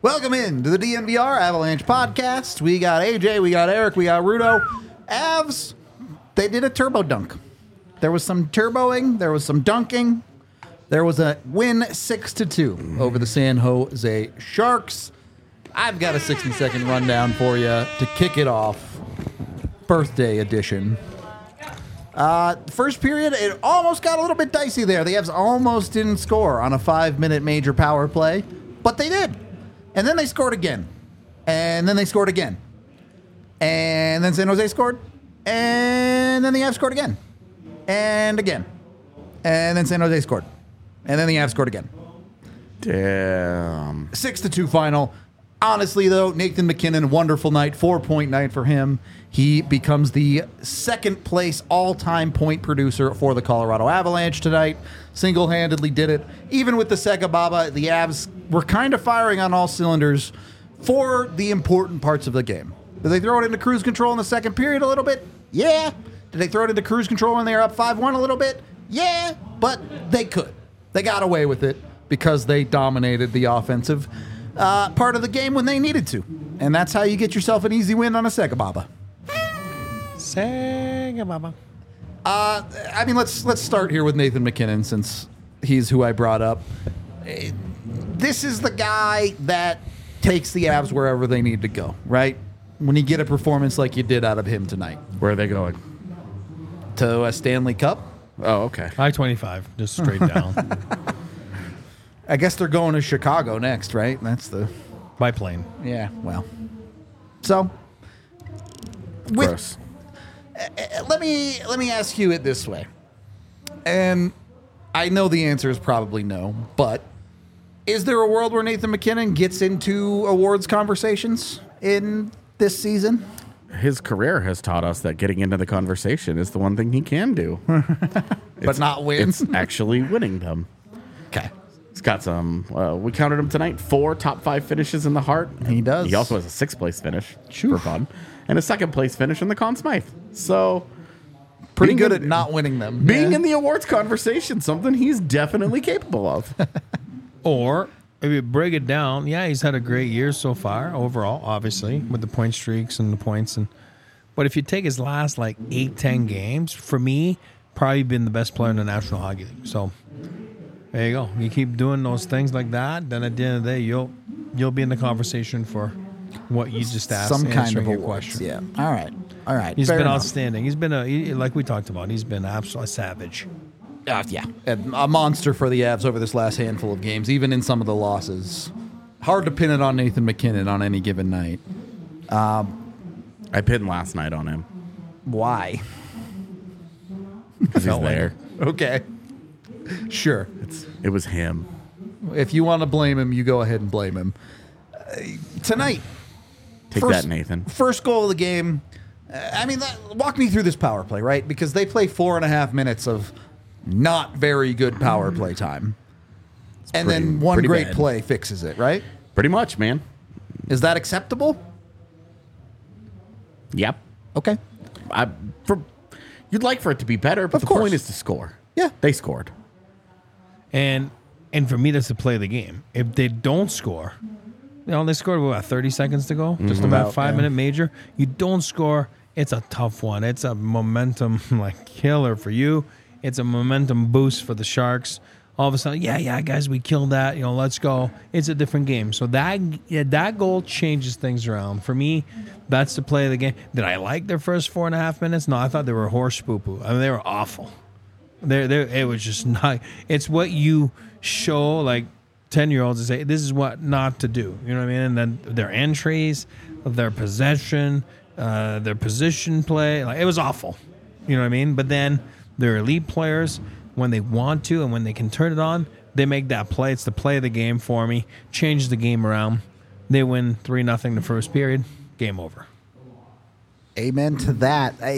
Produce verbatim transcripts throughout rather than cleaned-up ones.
Welcome in to the D N V R Avalanche podcast. We got A J, we got Eric, we got Rudo. Avs, they did a turbo dunk. There was some turboing, there was some dunking. There was a win six to two over the San Jose Sharks. I've got a sixty second rundown for you to kick it off. Birthday edition. Uh, first period, it almost got a little bit dicey there. The Avs almost didn't score on a five minute major power play, but they did. And then they scored again. And then they scored again. And then San Jose scored. And then the Avs scored again. And again. And then San Jose scored. And then the Avs scored again. Damn. Six to two final. Honestly, though, Nathan MacKinnon, wonderful night. Four-point night for him. He becomes the second place all-time point producer for the Colorado Avalanche tonight. Single-handedly did it. Even with the Sega Baba, the Avs were kind of firing on all cylinders for the important parts of the game. Did they throw it into cruise control in the second period a little bit? Yeah. Did they throw it into cruise control when they were up five one a little bit? Yeah, but they could. They got away with it because they dominated the offensive uh, part of the game when they needed to. And that's how you get yourself an easy win on a Sega Baba. Sega Baba. Uh, I mean, let's let's start here with Nathan MacKinnon since he's who I brought up. Uh, This is the guy that takes the Avs wherever they need to go, right? When you get a performance like you did out of him tonight. Where are they going? To a Stanley Cup? Oh, okay. I twenty-five, just straight down. I guess they're going to Chicago next, right? That's the... By plane. Yeah, well. So, with, Gross. uh, let me let me ask you it this way. And I know the answer is probably no, but is there a world where Nathan MacKinnon gets into awards conversations in this season? His career has taught us that getting into the conversation is the one thing he can do. But not win? It's actually winning them. Okay. He's got some, uh, we counted him tonight, four top five finishes in the Hart. He does. He also has a sixth place finish Phew. for fun and a second place finish in the Conn Smythe. So Pretty being good in- at not winning them. being Yeah. in the awards conversation, something he's definitely capable of. Or, if you break it down, yeah, he's had a great year so far, overall, obviously, with the point streaks and the points. and. But if you take his last, like, eight, ten games, for me, probably been the best player in the National Hockey League. So, there you go. You keep doing those things like that, then at the end of the day, you'll you'll be in the conversation for what you just asked, Some kind of answering your awards. question. Yeah. All right. All right. He's Fair been enough. outstanding. He's been a he, like we talked about. He's been absolutely savage. Uh, yeah, and a monster for the Avs over this last handful of games, even in some of the losses. Hard to pin it on Nathan MacKinnon on any given night. I pinned last night on him Why? because he's Felt like there. Okay. Sure. It's, it was him. If you want to blame him, you go ahead and blame him. Uh, tonight, Take First- that, Nathan. first goal of the game. Uh, I mean, that, walk me through this power play, right? Because they play four and a half minutes of not very good power play time. And pretty- then one pretty great bad. play fixes it, right? Pretty much, man. Is that acceptable? Yep. Okay. I, for, you'd like for it to be better, but Of the course. point is to score. Yeah. They scored. And and for me, that's the play of the game. If they don't score, you know, they scored with what, thirty seconds to go, just about About, five yeah. minute major. You don't score, it's a tough one. It's a momentum like killer for you. It's a momentum boost for the Sharks. All of a sudden, yeah, yeah, guys, we killed that. You know, let's go. It's a different game. So that yeah, that goal changes things around. For me, that's the play of the game. Did I like their first four and a half minutes? No, I thought they were horse poo poo. I mean, they were awful. There, there. It was just not. It's what you show like ten year olds and say this is what not to do. You know what I mean? And then their entries, their possession, uh, their position play. Like it was awful. You know what I mean? But then they're elite players when they want to and when they can turn it on. They make that play. It's the play of the game for me. Change the game around. They win three nothing the first period. Game over. Amen to that. I,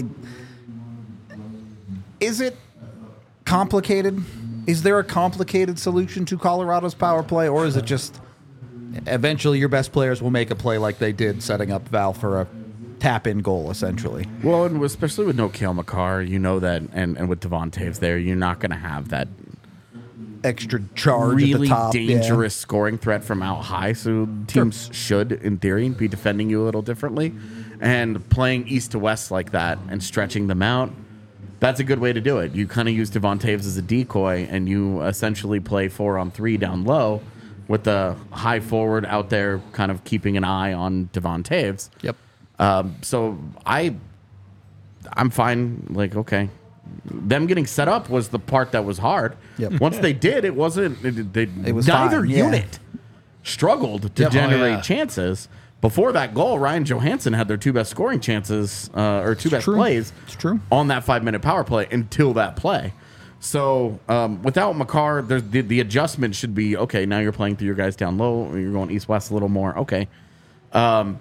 is it complicated? Is there a complicated solution to Colorado's power play, or is it just eventually your best players will make a play like they did, setting up Val for a tap-in goal, essentially? Well, and especially with no Cale Makar, you know that, and, and with Devon Taves there, you're not going to have that extra charge really at the top. dangerous scoring threat from out high. So teams should, in theory, be defending you a little differently. And playing east to west like that and stretching them out, that's a good way to do it. You kind of use Devon Taves as a decoy, and you essentially play four on three down low with the high forward out there kind of keeping an eye on Devon Taves. Yeah. Yep. Um, so I, I'm fine. Like, okay. Them getting set up was the part that was hard. Yep. Once they did, it wasn't. It, they, It was neither fine, yeah. unit struggled to Yep. Oh, generate yeah. chances. Before that goal, Ryan Johansson had their two best scoring chances, uh, or two best true. plays It's true. on that five-minute power play until that play. So um, without Makar, there's the, the adjustment should be, okay, now you're playing through your guys down low, or you're going east-west a little more. Okay. Um,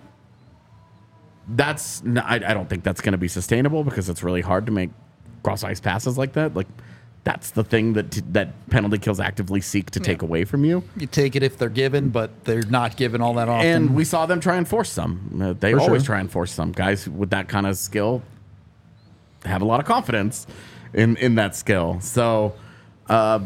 that's n- I, I don't think that's going to be sustainable because it's really hard to make cross-ice passes like that. Like, that's the thing that that penalty kills actively seek to take away from you. You take it if they're given, but they're not given all that often. And we saw them try and force some. Uh, they For always sure. try and force some. Guys with that kind of skill have a lot of confidence in, in that skill. So, uh,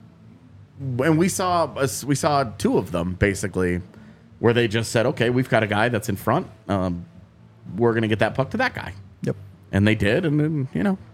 and we saw us- we saw two of them basically, where they just said, "Okay, we've got a guy that's in front. Um, we're going to get that puck to that guy," Yep. and they did. And then you know,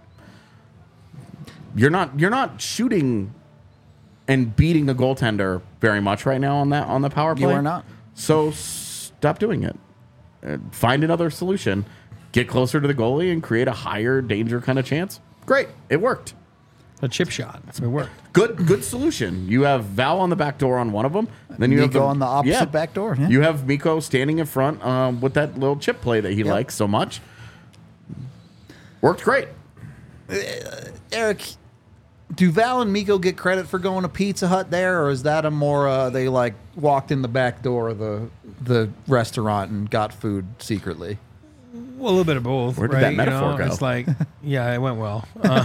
you're not you're not shooting and beating a goaltender very much right now on that on the power play. You are not. So stop doing it. Uh, find another solution. Get closer to the goalie and create a higher danger kind of chance. Great, it worked. A chip shot. It worked. Good, good solution. You have Val on the back door on one of them. Then you have Mikko on the opposite back door, yeah. You have Mikko standing in front um, with that little chip play that he likes so much. Worked great. Eric, do Val and Mikko get credit for going to Pizza Hut there, or is that a more uh, they like walked in the back door of the the restaurant and got food secretly? Well, a little bit of both. Where did right? that You metaphor know, go? It's like, yeah, it went well. Uh,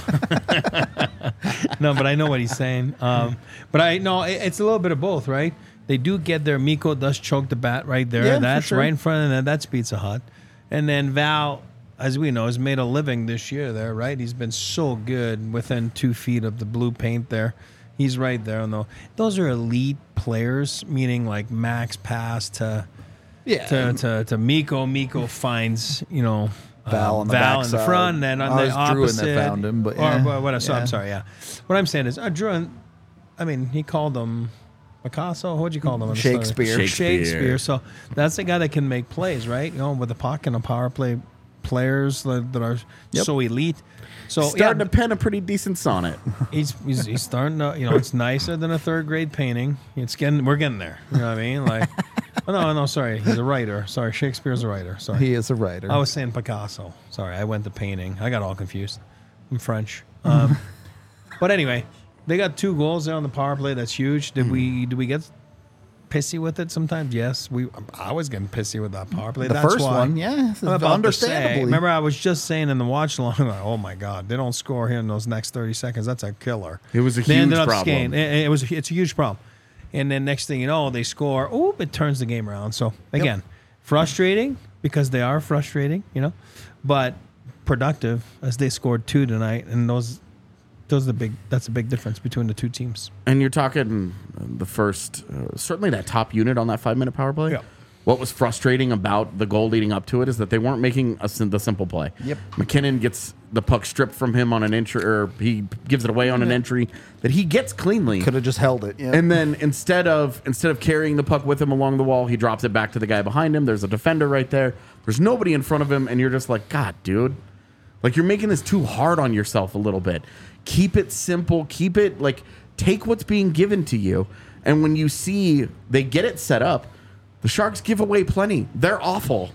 no, but I know what he's saying. Um, but I no, it, it's a little bit of both, right? They do get their Mikko does choke the bat right there. Yeah, for that's sure. right in front of them. That's Pizza Hut, and then Val, as we know, has made a living this year there, right? He's been so good within two feet of the blue paint there. He's right there. And those are elite players, meaning like max pass to. Yeah. to, to, to Mikko. Mikko finds, you know, Val uh, on the Val in the backside. front, and then on Oh, the it was Druin that opposite. found him, but or, yeah. what, what, so Yeah. I'm sorry, yeah. What I'm saying is, uh, Druin, I mean, he called him Picasso. What'd you call him? on the story? Shakespeare. Shakespeare. Shakespeare. So that's the guy that can make plays, right? You know, with the puck and the power play players that, that are Yep. so elite. So Starting yeah, to pen a pretty decent sonnet. he's, he's he's starting to, you know, it's nicer than a third grade painting. It's getting, we're getting there. You know what I mean? Like, oh, no, no, sorry, he's a writer. Sorry, Shakespeare's a writer. Sorry, He is a writer. I was saying Picasso. Sorry, I went to painting. I got all confused. I'm French. Um, but anyway, they got two goals there on the power play. That's huge. Did we? Did we get pissy with it sometimes? Yes, we. I was getting pissy with that power play. the That's first why. one, yeah, I'm about to say, understandably. remember, I was just saying in the watch along, like, oh my God, they don't score here in those next thirty seconds. That's a killer. It was a They huge ended up problem. skating. It, it was. It's a huge problem. And then next thing you know, they score. Oop! It turns the game around. So again, frustrating because they are frustrating, you know, but productive as they scored two tonight, and those. Those are the big. That's a big difference between the two teams. And you're talking the first, uh, certainly that top unit on that five minute power play. Yeah. What was frustrating about the goal leading up to it is that they weren't making a, sim- the simple play. Yep. McKinnon gets the puck stripped from him on an entry, or he gives it away on an entry that he gets cleanly. Could have just held it. Yeah. And then instead of instead of carrying the puck with him along the wall, he drops it back to the guy behind him. There's a defender right there. There's nobody in front of him, and you're just like, God, dude, like you're making this too hard on yourself a little bit. Keep it simple. Keep it like take what's being given to you. And when you see they get it set up, the Sharks give away plenty. They're awful.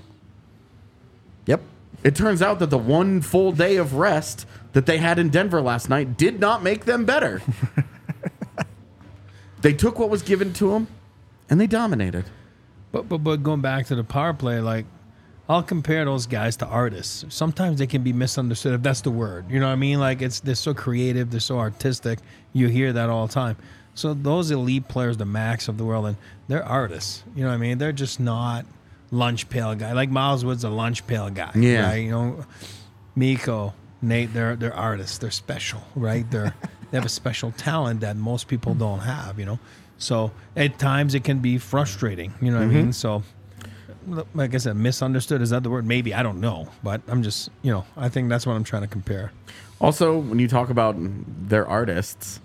Yep. It turns out that the one full day of rest that they had in Denver last night did not make them better. They took what was given to them, and they dominated. But but but going back to the power play, like I'll compare those guys to artists. Sometimes they can be misunderstood, if that's the word. You know what I mean? Like it's they're so creative, they're so artistic. You hear that all the time. So those elite players, the Max of the world, and they're artists. You know what I mean? They're just not lunch pail guy. Like Miles Wood's a lunch pail guy. Yeah. Right? You know, Mikko, Nate, they're they're artists. They're special, right? They're They have a special talent that most people don't have, you know. So at times it can be frustrating, you know what Mm-hmm. I mean? So, like I said, misunderstood, is that the word? Maybe, I don't know. But I'm just, you know, I think that's what I'm trying to compare. Also, when you talk about their artists,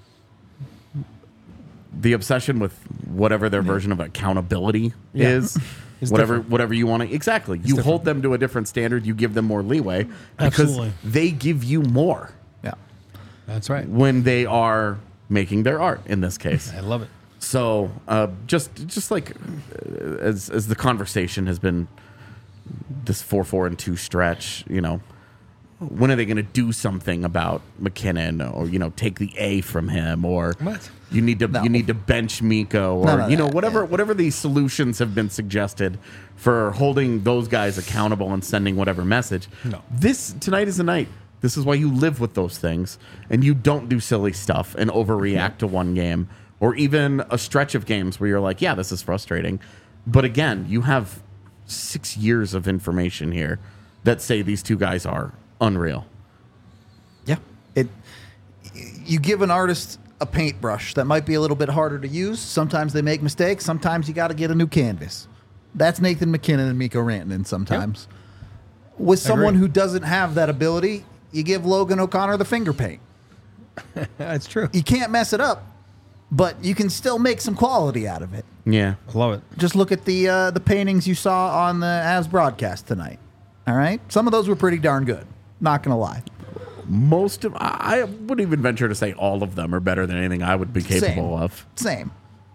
the obsession with whatever their version of accountability Yeah. is, It's whatever different. whatever you want to exactly. You hold them to a different standard. You give them more leeway because Absolutely. they give you more Yeah. That's right. when they are making their art. In this case, I love it. so uh, just just like uh, as as the conversation has been this four four and two stretch, you know. When are they going to do something about McKinnon, or you know, take the A from him, or What? you need to No. you need to bench Miko, or None of you know, that, whatever yeah. whatever these solutions have been suggested for holding those guys accountable and sending whatever message. No. This tonight is the night. This is why you live with those things, and you don't do silly stuff and overreact to one game, or even a stretch of games where you're like, yeah, this is frustrating, but again, you have six years of information here that say these two guys are unreal. Yeah. It. You give an artist a paintbrush that might be a little bit harder to use. Sometimes they make mistakes. Sometimes you got to get a new canvas. That's Nathan McKinnon and Miko Rantanen sometimes. With someone agree. who doesn't have that ability, you give Logan O'Connor the finger paint. That's true. You can't mess it up, but you can still make some quality out of it. Yeah. I love it. Just look at the uh, the paintings you saw on the Avs broadcast tonight. All right? Some of those were pretty darn good. Not going to lie. Most of I wouldn't even venture to say all of them are better than anything I would be capable Same. of. Same.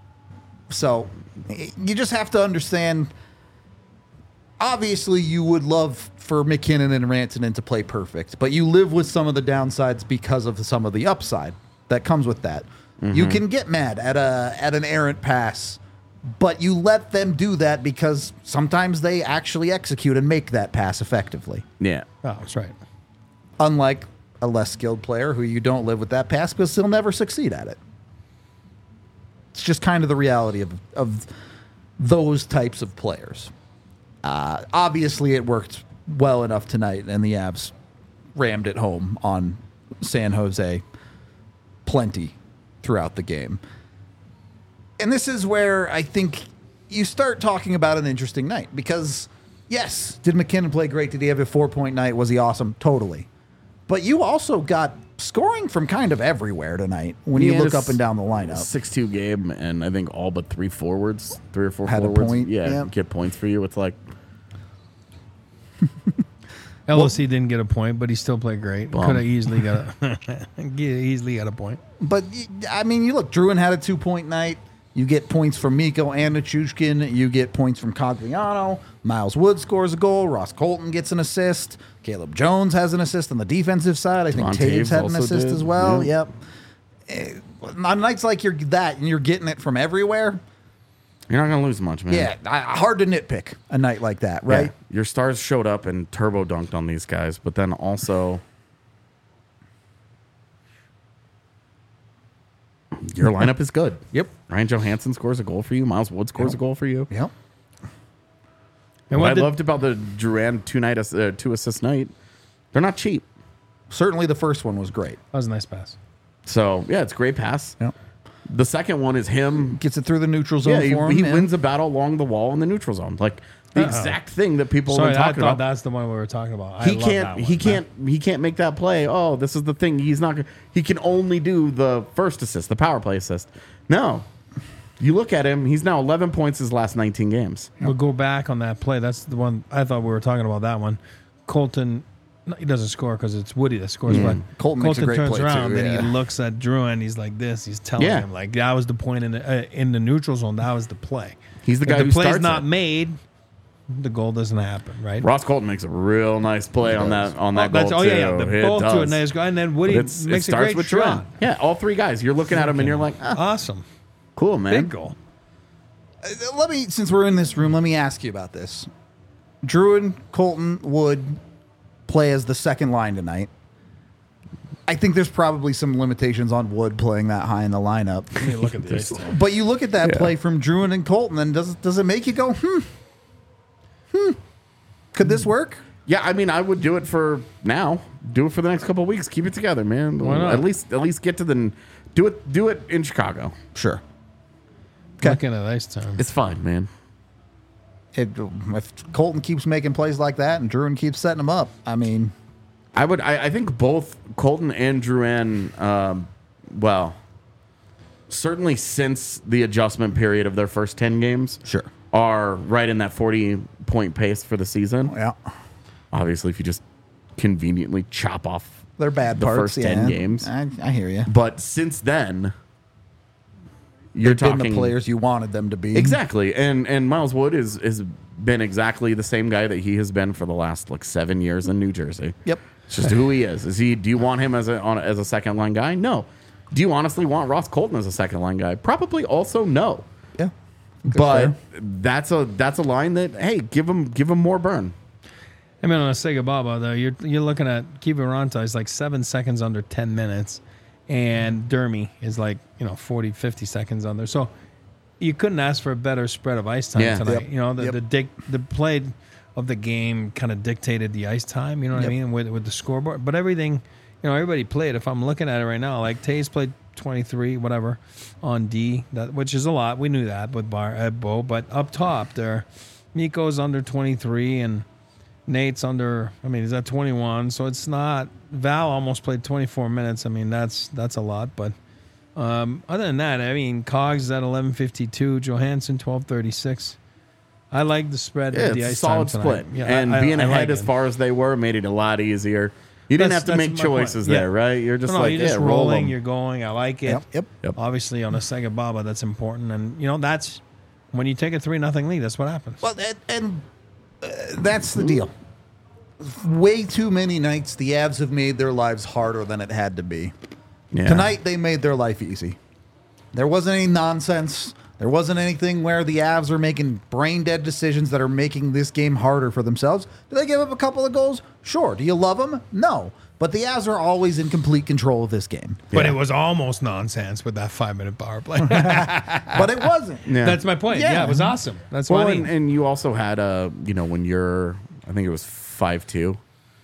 So y- you just have to understand. Obviously, you would love for McKinnon and Rantanen to play perfect, but you live with some of the downsides because of some of the upside that comes with that. You can get mad at a at an errant pass, but you let them do that because sometimes they actually execute and make that pass effectively. Yeah. Oh, that's right. Unlike a less skilled player who you don't live with that pass because he'll never succeed at it. It's just kind of the reality of, of those types of players. Uh, obviously, it worked well enough tonight, and the Avs rammed it home on San Jose plenty throughout the game. And this is where I think you start talking about an interesting night because, yes, did McKinnon play great? Did he have a four-point night? Was he awesome? Totally. But you also got scoring from kind of everywhere tonight when He you had look a up and down the lineup. six two game, and I think all but three forwards, three or four Had a forwards, point, yeah, yeah. get points for you. It's like L O C didn't get a point, but he still played great. Bum. Could have easily got a easily got a point. But, y- I mean, you look, Druin had a two-point night. You get points from Miko and Nichushkin. You get points from Cogliano. Miles Wood scores a goal. Ross Colton gets an assist. Caleb Jones has an assist on the defensive side. I think Devon Taves Taves had an also assist did, as well. yeah. Yep. Eh, On nights like you're that and you're getting it from everywhere, you're not gonna lose much, man. yeah, I- hard to nitpick a night like that, right? Yeah. Your stars showed up and turbo dunked on these guys, but then also your lineup is good. Yep. Ryan Johansson scores a goal for you. Miles Wood scores Yep. a goal for you. Yep. And What I what did, loved about the Duran two night ass- uh, two assist night, they're not cheap. Certainly the first one was great. that was a nice pass. So yeah, it's a great pass. Yep. The second one is him. Gets it through the neutral zone Yeah, he, for him. he yeah. wins a battle along the wall in the neutral zone, like the Uh-oh. exact thing that people Sorry, have been I talking thought about. that's the one we were talking about. I He love that can't. one. He can't. He can't make that play. Oh, this is the thing. He's not. gonna- He can only do the first assist, the power play assist. No, you look at him. He's now eleven points his last nineteen games. We'll go back on that play. That's the one I thought we were talking about. That one, Colton. No, he doesn't score because it's Woody that scores. But Colton makes a great turns play, too, around, then yeah. he looks at Druin. He's like this. He's telling Yeah. him like that was the point in the uh, in the neutral zone. That was the play. He's the If guy the who play's starts not it. made, the goal doesn't happen, right? Ross Colton makes a real nice play on that on that oh, that's, goal oh too. yeah, yeah. The, It both do a does. nice goal, and then But Woody it's- it makes a starts great with shot. Duran. Yeah, all three guys. You're looking at him and you're like, ah, Awesome, cool, man. big goal. Uh, Let me, since we're in this room, let me ask you about this. Druin, Colton, Wood play as the second line tonight. I think there's probably some limitations on Wood playing that high in the lineup. I mean, look at this. But you look at that Yeah. play from Druin and Colton, and does does it make you go, hmm, hmm? Could this work? Yeah, I mean, I would do it for now. Do it for the next couple of weeks. Keep it together, man. Why not? At least, at least get to the. Do it. Do it in Chicago. Sure. Looking at ice time. It's fine, man. It, if Colton keeps making plays like that and Druin keeps setting them up, I mean, I would. I, I think both Colton and Drouin, um, well, certainly since the adjustment period of their first ten games, Sure. are right in that forty point pace for the season. yeah, Obviously, if you just conveniently chop off they're bad the parts. first yeah. ten games, I, I hear you. but since then, you're They've talking been the players you wanted them to be. exactly. And and Miles Wood is has been exactly the same guy that he has been for the last like seven years in New Jersey. Yep. It's just who he is. Is he? Do you want him as a on, as a second line guy? No. Do you honestly want Ross Colton as a second line guy? Probably also no. Yeah. But that's a that's a line that hey, give him give him more burn. I mean, on a Sega Baba, though, you're you're looking at Kiviranta is like seven seconds under ten minutes, and Dermy is like, you know, forty, fifty seconds under. So you couldn't ask for a better spread of ice time Yeah. tonight. Yep. You know, the Yep. the, dic- the play of the game kind of dictated the ice time, you know what Yep. I mean, with, with the scoreboard. But everything, you know, everybody played. If I'm looking at it right now, like Tays played twenty-three, whatever, on D, that which is a lot. We knew that with Bar uh, Bo. But up top there, Miko's under twenty-three and Nate's under, I mean, he's at twenty-one. So it's not, Val almost played twenty-four minutes. I mean, that's that's a lot. But um, other than that, I mean, Cogs is at eleven fifty-two, Johansson twelve thirty-six. I like the spread Yeah, of it's the a ice solid time split. tonight. Yeah, and I- being I ahead like as it. far as they were made it a lot easier. You didn't That's- have to make that's my point. choices Yeah. there, right? You're just No, no, like, you're yeah, just roll rolling, 'em. you're going. I like it. Yep. Yep. Yep. Obviously, on a Sega Baba, that's important. And, you know, that's when you take a three nothing lead, that's what happens. Well, and, and uh, that's the deal. Way too many nights the Avs have made their lives harder than it had to be. Yeah. Tonight they made their life easy. There wasn't any nonsense. There wasn't anything where the Avs are making brain dead decisions that are making this game harder for themselves. Do they give up a couple of goals? Sure. Do you love them? No. But the Avs are always in complete control of this game. But Yeah. it was almost nonsense with that five minute power play. But it wasn't. Yeah. That's my point. Yeah. Yeah. It was awesome. That's Well, what I and, mean. and you also had a, you know, when you're, I think it was five two,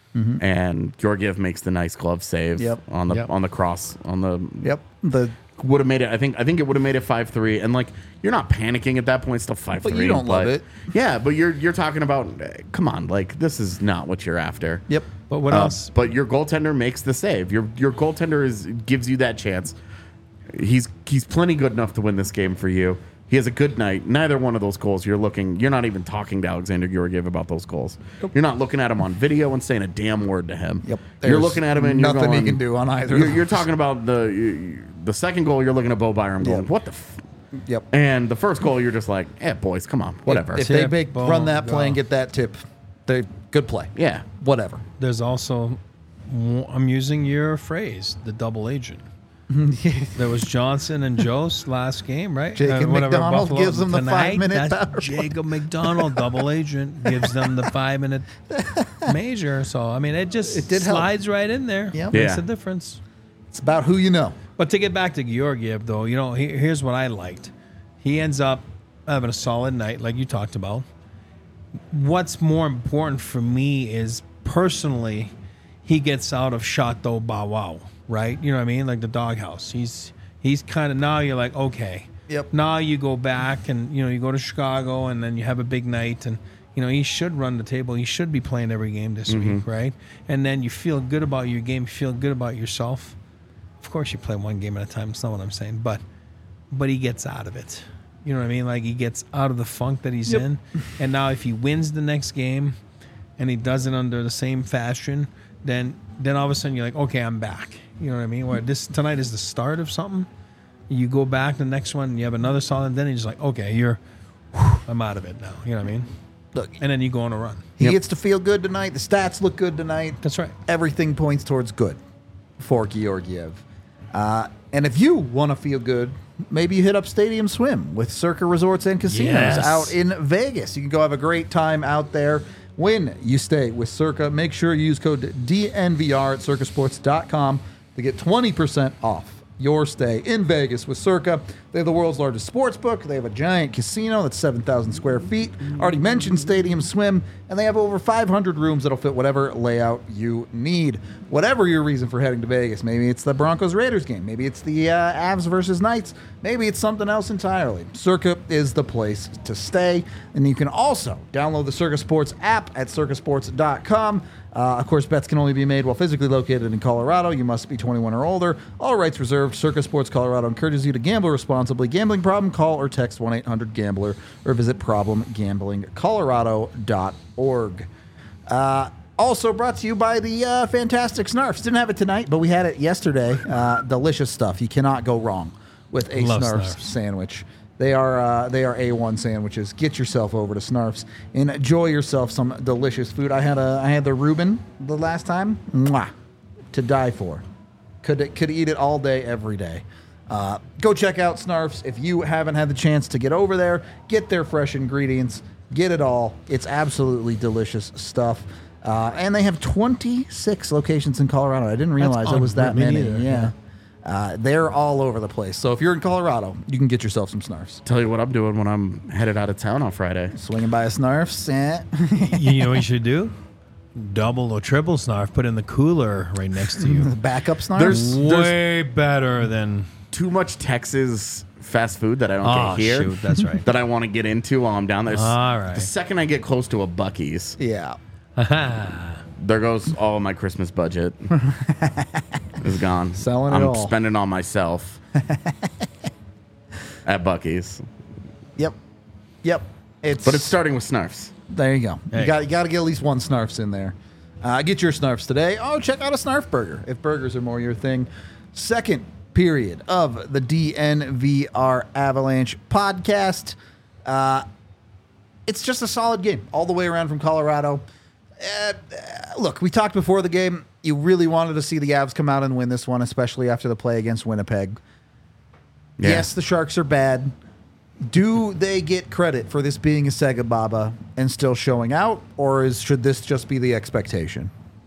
and Georgiev makes the nice glove save Yep. on the Yep. on the cross on the Yep. The would have made it. I think I think it would have made it five three, and like you're not panicking at that point. It's still five three. But you don't love it. Yeah, but you're you're talking about. eh, Come on, like this is not what you're after. Yep. But what Uh, else? But your goaltender makes the save. Your your goaltender is gives you that chance. He's he's plenty good enough to win this game for you. He has a good night. Neither one of those goals you're looking. You're not even talking to Alexander Georgiev about those goals. You're not looking at him on video and saying a damn word to him. Yep. You're There's looking at him and you're nothing he going, can do on either of You're, you're those. talking about the the second goal. You're looking at Bo Byram going, Yep. what the. F-? Yep. And the first goal, you're just like, eh, boys, come on, whatever. If, if they Tip, make, boom, run that play and go. get that tip, they good play. yeah. Whatever. There's also, I'm using your phrase, the double agent. There was Johnson and Jost last game, right? Jacob McDonald Buffalo. gives them the Tonight, five-minute that's power play. Jacob McDonald, double agent, gives them the five minute major. So, I mean, it just It did help. slides right in there. Yep. Makes Yeah. a difference. It's about who you know. But to get back to Georgiev, though, you know, he- here's what I liked. He ends up having a solid night, like you talked about. What's more important for me is personally, he gets out of Chateau Bow Wow, right? You know what I mean? Like the doghouse. He's he's kind of, now you're like, okay. Yep. Now you go back and, you know, you go to Chicago and then you have a big night and, you know, he should run the table. He should be playing every game this week, right? And then you feel good about your game. You feel good about yourself. Of course, you play one game at a time. It's not what I'm saying, but but he gets out of it. You know what I mean? Like he gets out of the funk that he's Yep. in. And now, if he wins the next game, and he does it under the same fashion, then then all of a sudden you're like, okay, I'm back. You know what I mean? Where this tonight is the start of something. You go back the next one, and you have another solid. Then you're just like, okay, you're, whew, I'm out of it now. You know what I mean? Look, And then you go on a run. he Yep. gets to feel good tonight. The stats look good tonight. That's right. Everything points towards good for Georgiev. Uh, and if you want to feel good, maybe you hit up Stadium Swim with Circa Resorts and Casinos Yes. out in Vegas. You can go have a great time out there. When you stay with Circa, make sure you use code D N V R at circa sports dot com to get twenty percent off your stay in Vegas with Circa. They have the world's largest sports book. They have a giant casino that's seven thousand square feet. Already mentioned Stadium Swim. And they have over five hundred rooms that'll fit whatever layout you need. Whatever your reason for heading to Vegas. Maybe it's the Broncos-Raiders game. Maybe it's the uh, Avs versus Knights. Maybe it's something else entirely. Circa is the place to stay. And you can also download the Circa Sports app at circa sports dot com. Uh, of course, bets can only be made while physically located in Colorado. You must be twenty-one or older. All rights reserved. Circa Sports Colorado encourages you to gamble responsibly. Gambling problem? Call or text one eight hundred gambler or visit problem gambling colorado dot org. Uh, also brought to you by the uh, fantastic Snarfs. Didn't have it tonight, but we had it yesterday. Uh, delicious stuff. You cannot go wrong with a Love Snarfs, Snarfs. sandwich. They are uh, they are A one sandwiches. Get yourself over to Snarfs and enjoy yourself some delicious food. I had a I had the Reuben the last time. Mwah, to die for. Could could eat it all day, every day. Uh, go check out Snarfs if you haven't had the chance to get over there. Get their fresh ingredients. Get it all. It's absolutely delicious stuff. Uh, and they have twenty-six locations in Colorado. I didn't realize it was that unreal. Me many. neither, Yeah. yeah. Uh, they're all over the place. So if you're in Colorado, you can get yourself some Snarfs. Tell you what I'm doing when I'm headed out of town on Friday. Swinging by a Snarfs. Eh. You know what you should do? Double or triple Snarf, put in the cooler right next to you. Backup Snarfs. There's- Way better than. Too much Texas fast food that I don't Oh, get here. shoot, that's right. That I want to get into while I'm down there. All right. The second I get close to a Buc-ee's, yeah. there goes all of my Christmas budget. Is gone. Selling it I'm all. spending on myself at Buc-ee's. Yep. Yep. It's But it's starting with Snarfs. there. You go. Hey. You got you got to get at least one Snarfs in there. Uh, get your Snarfs today. Oh, check out a Snarf burger if burgers are more your thing. Second period of the D N V R Avalanche podcast. Uh, it's just a solid game all the way around from Colorado. Uh, look, we talked before the game. You really wanted to see the Avs come out and win this one, especially after the play against Winnipeg. Yeah. Yes, the Sharks are bad. Do they get credit for this being a Sega Baba and still showing out, or is should this just be the expectation?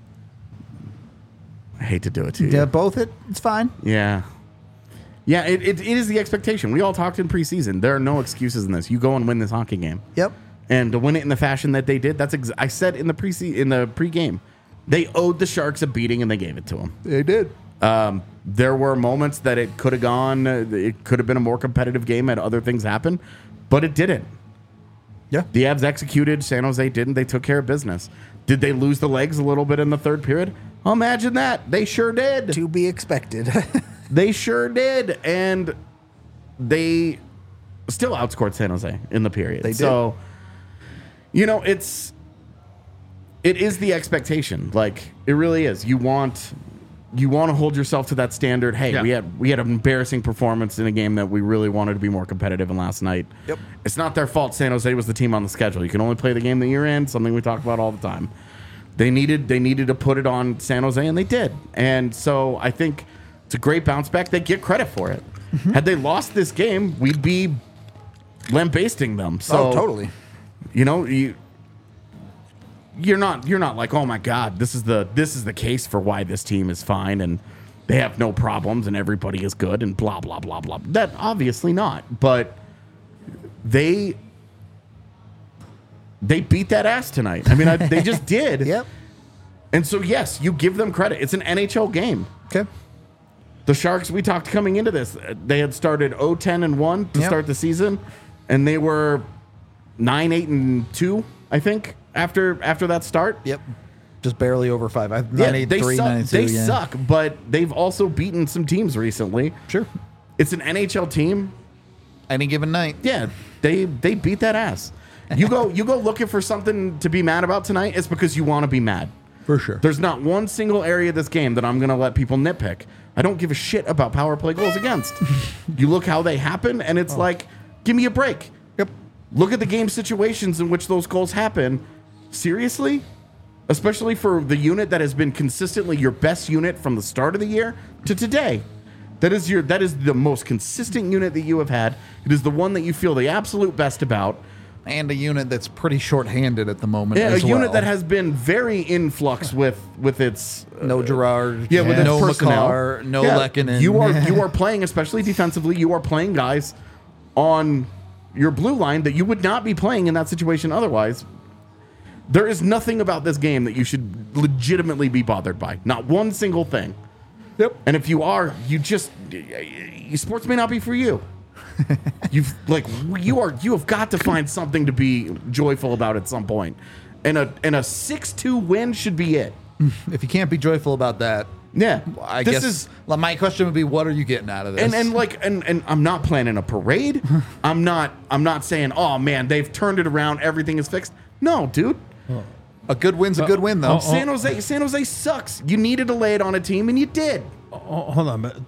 I hate to do it to you. Yeah, both. It it's fine. Yeah. Yeah, it, it, it is the expectation. We all talked in preseason. There are no excuses in this. You go and win this hockey game. Yep. And to win it in the fashion that they did, that's ex- I said in the pre in the pregame, they owed the Sharks a beating and they gave it to them. They did. Um, there were moments that it could have gone, uh, it could have been a more competitive game had other things happen, but it didn't. Yeah. The Avs executed, San Jose didn't. They took care of business. Did they lose the legs a little bit in the third period? Imagine that. They sure did. To be expected. They sure did. And they still outscored San Jose in the period. They did. So, you know, it's it is the expectation. Like, it really is. You want you want to hold yourself to that standard. Hey, Yeah. we had we had an embarrassing performance in a game that we really wanted to be more competitive in last night. Yep. It's not their fault San Jose was the team on the schedule. You can only play the game that you're in, something we talk about all the time. They needed they needed to put it on San Jose, and they did. And so I think it's a great bounce back. They get credit for it. Mm-hmm. Had they lost this game, we'd be lambasting them. So oh, totally. You know, you you're not you're not like, oh my God, this is the this is the case for why this team is fine and they have no problems and everybody is good and blah blah blah blah. That obviously not. But they they beat that ass tonight. I mean, I, they just did. Yep. And so yes, you give them credit. It's an N H L game. Okay. The Sharks, we talked coming into this, they had started oh ten and one to Yep. start the season, and they were nine eight and two, I think, after after that start. Yep. Just barely over five. I've Yeah, nine eight they three, suck. nine eight two. They yeah. suck, but they've also beaten some teams recently. Sure. It's an N H L team. Any given night. Yeah, they they beat that ass. You go you go looking for something to be mad about tonight. It's because you want to be mad. For sure. There's not one single area of this game that I'm going to let people nitpick. I don't give a shit about power play goals against. You look how they happen, and it's like, give me a break. Yep. Look at the game situations in which those goals happen. Seriously? Especially for the unit that has been consistently your best unit from the start of the year to today. That is your that is the most consistent unit that you have had. It is the one that you feel the absolute best about. and a unit that's pretty short-handed at the moment. Yeah, a as unit well. that has been very in flux with with its uh, no Gerard, yeah, with its no personnel. McCarr, no Yeah, Lehkonen. You are you are playing, especially defensively. You are playing guys on your blue line that you would not be playing in that situation otherwise. There is nothing about this game that you should legitimately be bothered by. Not one single thing. Yep. And if you are, you just sports may not be for you. You've like you are you have got to find something to be joyful about at some point. And a and a six two win should be it. If you can't be joyful about that, Yeah. I this guess is well, my question would be, what are you getting out of this? and and like and and I'm not planning a parade. I'm not I'm not saying, "Oh man, they've turned it around, everything is fixed." No, dude. a good win's a good win, though. oh, San Jose San Jose sucks. You needed to lay it on a team and you did. Oh, hold on, but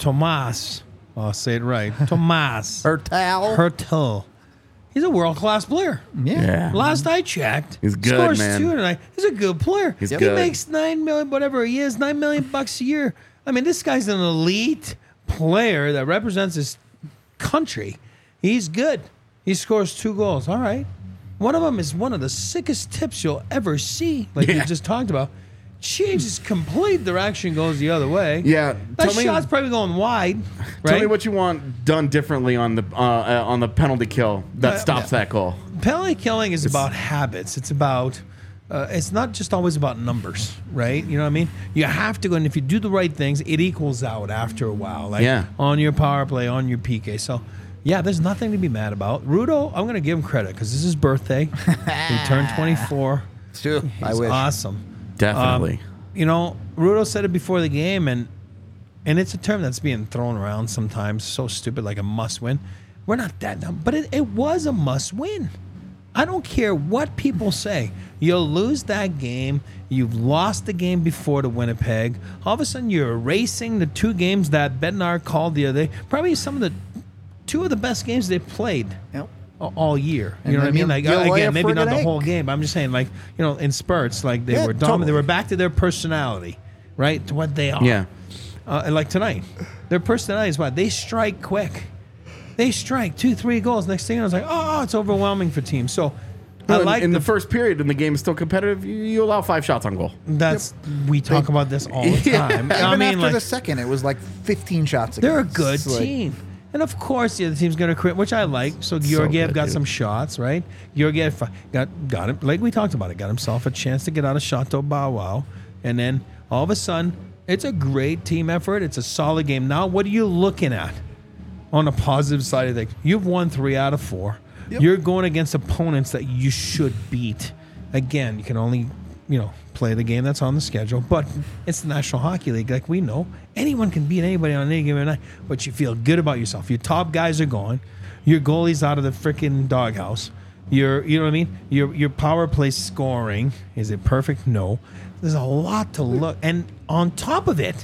Tomas, I'll say it right. Tomas Hertel. Hertel. He's a world class player. yeah. Last I checked, He's good, scores man. two tonight. He's a good player. He's he good. makes nine million, whatever he is, nine million bucks a year. I mean, this guy's an elite player that represents his country. He's good. He scores two goals. All right. One of them is one of the sickest tips you'll ever see, like Yeah. you just talked about. Changes complete direction, goes the other way. Yeah, That tell me- shot's probably going wide. Right? Tell me what you want done differently on the uh, uh, on the penalty kill that Uh, stops that goal. Penalty killing is about habits. It's about, uh, it's not just always about numbers, right? You know what I mean? You have to go, and if you do the right things, it equals out after a while. Like Yeah. on your power play, on your P K. So, yeah, there's nothing to be mad about. Rudo, I'm going to give him credit because this is his birthday. He turned twenty-four. Sure. I He's wish. awesome. Definitely. Um, you know, Rudo said it before the game, and and it's a term that's being thrown around sometimes, so stupid, like a must win. We're not that dumb, but it, it was a must win. I don't care what people say. You'll lose that game. You've lost the game before to Winnipeg. All of a sudden, you're erasing the two games that Bednar called the other day. Probably some of the two of the best games they played Yep. a- all year. And You know what I then mean? you- Like you uh, lay a again, maybe not friggin' the egg. whole game. But I'm just saying, like you know, in spurts, like they Yeah, were dominant. They totally. were back to their personality, right? To what they are. Yeah. Uh, and like tonight, their personality is what they strike quick. They strike two, three goals. Next thing I was like, oh, it's overwhelming for teams. So I Well, in- like in the, the, first period, and the game is still competitive. You, you allow five shots on goal. that's we talk about this all the Yeah. time. Even I mean, after like the second, it was like fifteen shots. they're a against. good It's like- team. And of course, the other team's going to quit, which I like. So Georgiev good, got dude. some shots, right? Georgiev got got him, like we talked about it, got himself a chance to get out of Chateau Bow Wow. And then all of a sudden, it's a great team effort. It's a solid game. Now, what are you looking at on the positive side of things? You've won three out of four. Yep. You're going against opponents that you should beat. Again, you can only, you know, play the game that's on the schedule, but it's the National Hockey League. Like we know, anyone can beat anybody on any given night, but you feel good about yourself. Your top guys are gone. Your goalie's out of the freaking doghouse. Your, you know what I mean? Your your power play scoring, is it perfect? No. There's a lot to look. And on top of it,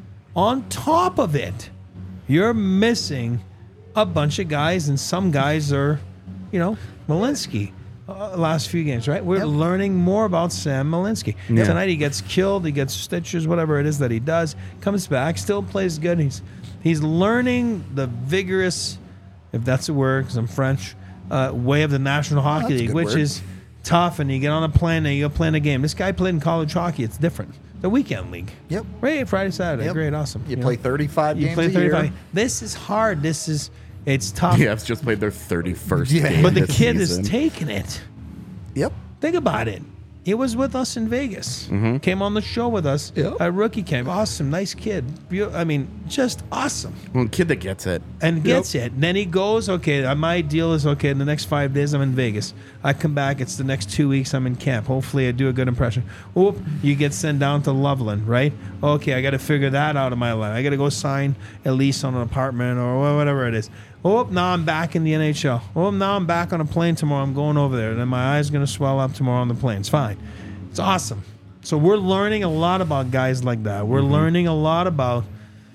on top of it, you're missing a bunch of guys, and some guys are, you know, Malinsky. Uh, last few games, right? We're Yep. learning more about Sam Malinsky. Yeah. Tonight he gets killed, he gets stitches, whatever it is that he does, comes back, still plays good. He's he's learning the vigorous, if that's a word, because I'm French, uh, way of the National Hockey that's a League, good which word. is tough. And you get on a plane and you go play in a game. This guy played in college hockey. It's different. The weekend league. Yep. Right, Friday, Saturday. Yep. Great, awesome. You know? play thirty-five You games play a thirty-five. year. This is hard. This is it's tough. The Fs just played their thirty-first Yeah. game. But the this kid season. is taking it. Yep. Think about it. He was with us in Vegas. Came on the show with us. Yep. A rookie came. Awesome. Nice kid. Beau- I mean, just awesome. Well, kid that gets it. And gets it. And then he goes, okay, uh, my deal is, okay, in the next five days I'm in Vegas. I come back. It's the next two weeks I'm in camp. Hopefully I do a good impression. Oop, you get sent down to Loveland, right? Okay, I got to figure that out of my life. I got to go sign a lease on an apartment or whatever it is. Oh, now I'm back in the N H L. Oh, now I'm back on a plane tomorrow. I'm going over there. And then my eyes going to swell up tomorrow on the plane. It's fine. It's awesome. So we're learning a lot about guys like that. We're Mm-hmm. learning a lot about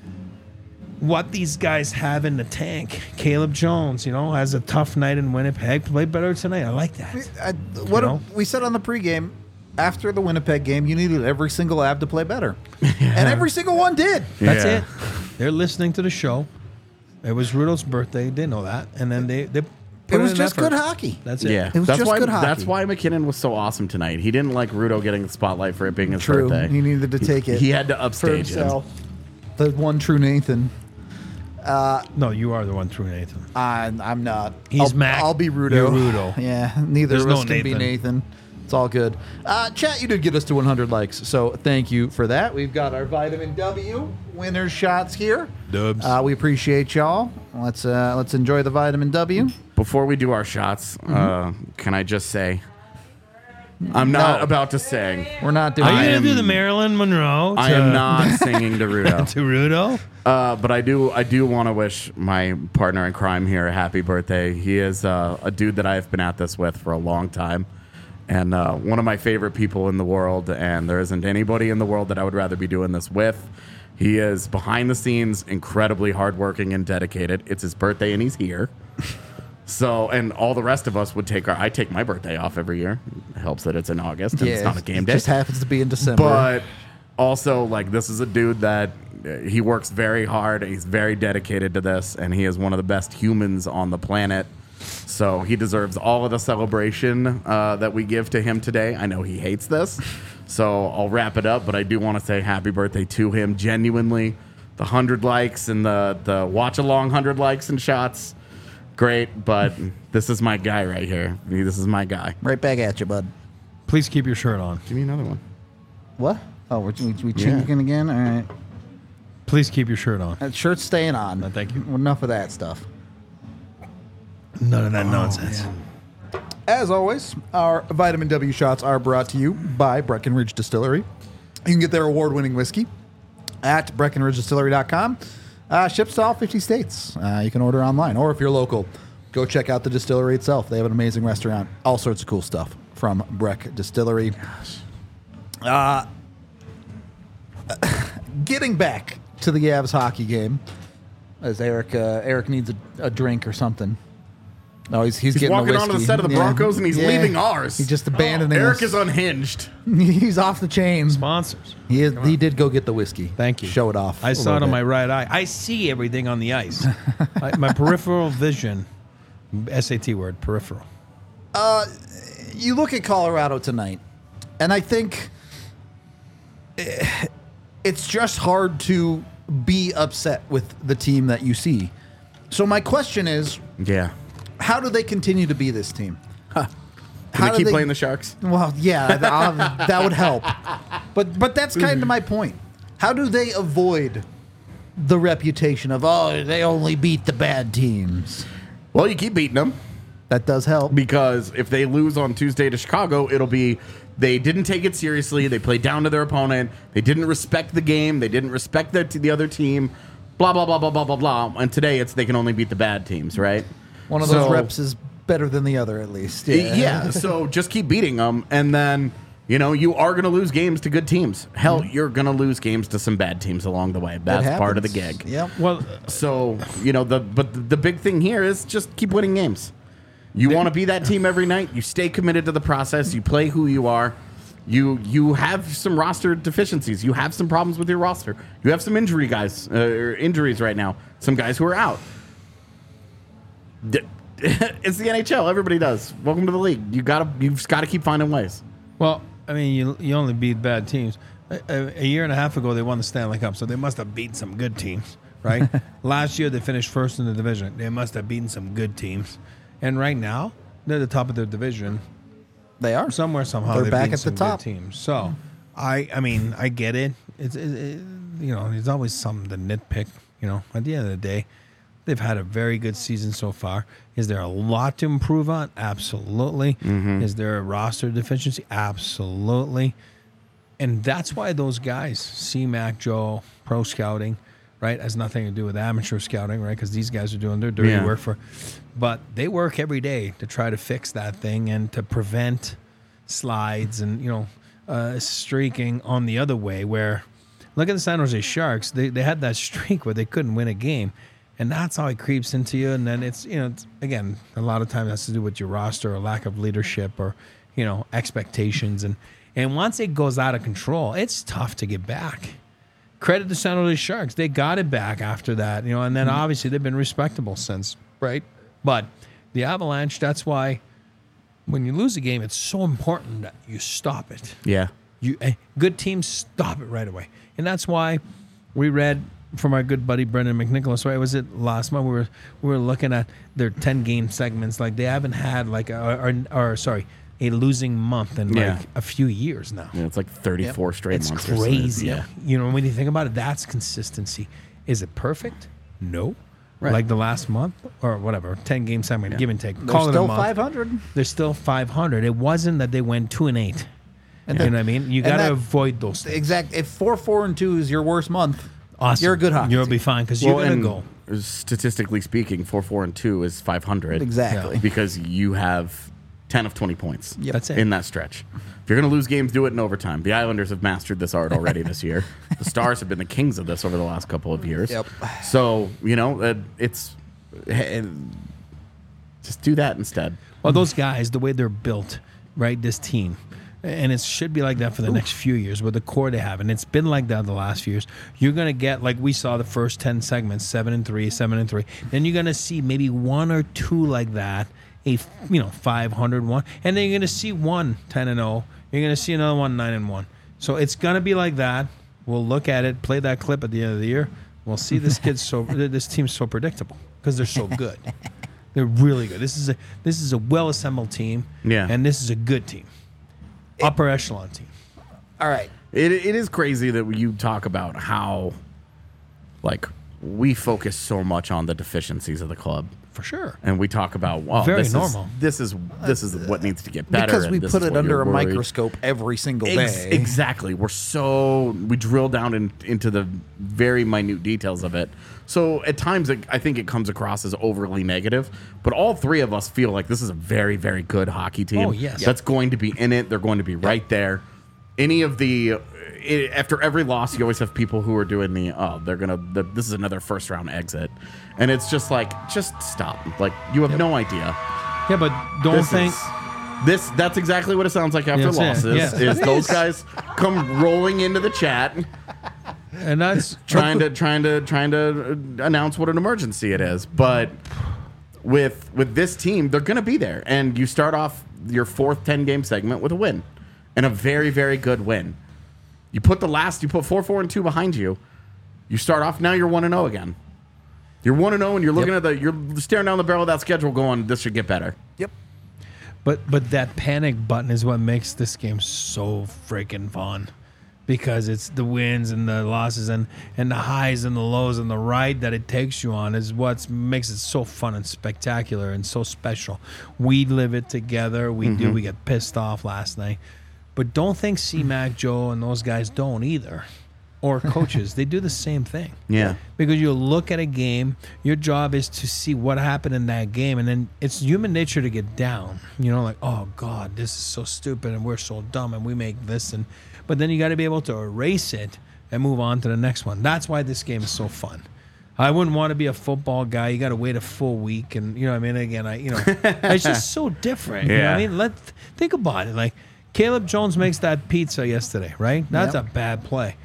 what these guys have in the tank. Caleb Jones, you know, has a tough night in Winnipeg. Played better tonight. I like that. I, what You know? we said on the pregame, after the Winnipeg game, you needed every single ab to play better. And every single one did. That's Yeah. it. They're listening to the show. It was Rudo's birthday. They know that. And then they, they put it was in just effort. good hockey. That's it. Yeah, It was that's just why. good hockey. That's why McKinnon was so awesome tonight. He didn't like Rudo getting the spotlight for it being his True. birthday. He needed to take it He had to for upstage him. himself. The one true Nathan. No, you are the one true Nathan. I'm, I'm not. He's I'll, Mac. I'll be Rudo. You're Rudo. Yeah, neither There's of us no can be Nathan. Nathan. It's all good. Uh, chat, you did get us to one hundred likes, so thank you for that. We've got our Vitamin W winner's shots here. Dubs. Uh, we appreciate y'all. Let's uh, let's enjoy the Vitamin W. Before we do our shots, Mm-hmm. uh, can I just say, I'm not No. about to sing. We're not doing Are you I going am- to do the Marilyn Monroe to, I am not singing to Rudo. to Rudo? Uh, but I do I do want to wish my partner in crime here a happy birthday. He is uh, a dude that I've been at this with for a long time, and uh, one of my favorite people in the world. And there isn't anybody in the world that I would rather be doing this with. He is behind the scenes, incredibly hardworking and dedicated. It's his birthday, and he's here. So, and all the rest of us would take our. I take my birthday off every year. It helps that it's in August and it's not a game it day. just happens to be in December. But also, like, this is a dude that uh, he works very hard. He's very dedicated to this, and he is one of the best humans on the planet. So he deserves all of the celebration uh, that we give to him today. I know he hates this, so I'll wrap it up. But I do want to say happy birthday to him. Genuinely, the hundred likes and the the watch along hundred likes and shots, great. But this is my guy right here. This is my guy. right back at you, bud. Please keep your shirt on. Give me another one. What? Oh, we're, we, we Yeah. changing again? All right. Please keep your shirt on. That shirt's staying on. No, thank you. Enough of that stuff. None of that nonsense. As always, our Vitamin W shots are brought to you by Breckenridge Distillery. You can get their award-winning whiskey at breckenridge distillery dot com. Uh, ships to all fifty states. Uh, you can order online, or if you're local, go check out the distillery itself. They have an amazing restaurant. All sorts of cool stuff from Breck Distillery. Uh, getting back to the Avs hockey game, as Eric uh, Eric needs a, a drink or something. No, he's he's, He's getting walking the onto the whiskey. set of the Yeah. Broncos, and he's Yeah. leaving ours. He's just abandoning Eric us. is unhinged. He's off the chain. Sponsors. He is, he did go get the whiskey. Thank you. Show it off. I a saw it little on bit. my right eye. I see everything on the ice. I, my peripheral vision. S A T word, peripheral. You look at Colorado tonight, and I think eh, it's just hard to be upset with the team that you see. So my question is, Yeah. how do they continue to be this team? Can How we do keep playing the Sharks? Well, yeah, th- I'll- that would help. But but that's kind of my point. How do they avoid the reputation of, oh, they only beat the bad teams? Well, you keep beating them, That does help. because if they lose on Tuesday to Chicago, it'll be they didn't take it seriously. They played down to their opponent. They didn't respect the game. They didn't respect the, the other team. Blah, blah, blah, blah, blah, blah, blah. And today it's they can only beat the bad teams, right? One of those So- reps is better than the other, at least. Yeah. so just keep beating them, and then you know you are going to lose games to good teams. Hell, you're going to lose games to some bad teams along the way. It That's part of the happens. gig. Yep. Well, So you know the but the big thing here is just keep winning games. You want to be that team every night. You stay committed to the process. You play who you are. You you have some roster deficiencies. You have some problems with your roster. You have some injury guys, uh, or injuries right now. Some guys who are out. D- It's the N H L. Everybody does. Welcome to the league. You gotta you've got to keep finding ways. well, I mean, you you only beat bad teams. A, a, a year and a half ago, they won the Stanley Cup, so they must have beaten some good teams, right? Last year, they finished first in the division. They must have beaten some good teams. And right now, they're the top of their division. They are. Somewhere, somehow, They're they've back beaten at the some good top. teams. So, I, I mean, I get it. It's, it, it, you know, there's always something to nitpick. You know, at the end of the day, they've had a very good season so far. Is there a lot to improve on? Absolutely. Is there a roster deficiency? Absolutely. And that's why those guys, C-Mac, Joe, pro scouting, right, has nothing to do with amateur scouting, right? Because these guys are doing their dirty Yeah. work for, but they work every day to try to fix that thing and to prevent slides and you know uh, streaking on the other way. Where look at the San Jose Sharks, they they had that streak where they couldn't win a game, and that's how it creeps into you. And then it's you know it's, again a lot of times it has to do with your roster or lack of leadership or you know expectations and and once it goes out of control, it's tough to get back. Credit to San Jose Sharks. They got it back after that, you know, and then obviously they've been respectable since, right? But The Avalanche, that's why when you lose a game, it's so important that you stop it. Yeah. You eh, good teams stop it right away. And that's why we read from our good buddy Brendan McNicholas, right? Was it last month? We were we were looking at their ten game segments. Like they haven't had like a, or, or sorry, a losing month in Yeah. like a few years now. Yeah, it's like thirty-four straight It's months. or so. crazy. Yeah. You know, when you think about it, that's consistency. Is it perfect? No. Right. Like the last month or whatever, ten game segment, give and take. They're Call it a still month. five hundred. They're still five hundred. It wasn't that they went two and eight. And you then- know what I mean? You and got to that- avoid those things. Exact. If four, four, and two is your worst month, Awesome. you're a good hockey You'll team. be fine because Well, you're going and to go. statistically speaking, four, four, and two is five hundred. Exactly. Because you have ten of twenty points. Yep. That's it. In that stretch. If you're going to lose games, do it in overtime. The Islanders have mastered this art already this year. The Stars have been the kings of this over the last couple of years. Yep. So, you know, uh, it's eh, just do that instead. Well, those guys, the way they're built, right? This team, and it should be like that for the next few years with the core they have, and it's been like that the last few years. You're gonna get like we saw the first ten segments, seven and three, seven and three. Then you're gonna see maybe one or two like that, a f- you know five hundred one, and then you're gonna see one ten and zero. You're gonna see another one nine and one. So it's gonna be like that. We'll look at it, play that clip at the end of the year. We'll see this kid's so this team's so predictable because they're so good. They're really good. This is a this is a well assembled team. Yeah. And this is a good team. Upper echelon team. All right. It, it is crazy that you talk about how, like, we focus so much on the deficiencies of the club. For sure. And we talk about, well, Very this normal. Is, this is this is what needs to get better. Because and we this put is it what under you're a worried. microscope every single Ex- day. exactly. We're so we drill down in, into the very minute details of it. So at times, it, I think it comes across as overly negative. But all three of us feel like this is a very, very good hockey team. Oh, yes. That's going to be in it. They're going to be right there. Any of the i after every loss, you always have people who are doing the oh, they're gonna. The, this is another first round exit, and it's just like just stop. Like you have no idea. Yeah, but don't This think is- this that's exactly what it sounds like after Yes, yeah, losses. yeah. Is It those is. guys come rolling into the chat, and that's trying to trying to trying to uh, announce what an emergency it is. But with with this team, they're going to be there, and you start off your fourth ten game segment with a win, and a very very good win. You put the last, you put four four and two behind you. You start off now. You're one and zero again. You're one and zero, and you're looking at the you're staring down the barrel of that schedule, going, "This should get better." Yep. But but that panic button is what makes this game so freaking fun. Because it's the wins and the losses and, and the highs and the lows and the ride that it takes you on is what makes it so fun and spectacular and so special. We live it together. We do. We get pissed off last night. But don't think C-Mac, Joe, and those guys don't either. Or coaches. They do the same thing. Yeah. Because you look at a game, your job is to see what happened in that game, and then it's human nature to get down. You know, like, oh God, this is so stupid, and we're so dumb, and we make this, and but then you got to be able to erase it and move on to the next one. That's why this game is so fun. I wouldn't want to be a football guy. You got to wait a full week, and you know, what I mean, again, I, you know, it's just so different. You know what I Yeah. mean, let think about it. Like Caleb Jones makes that pizza yesterday, right? That's Yep. a bad play.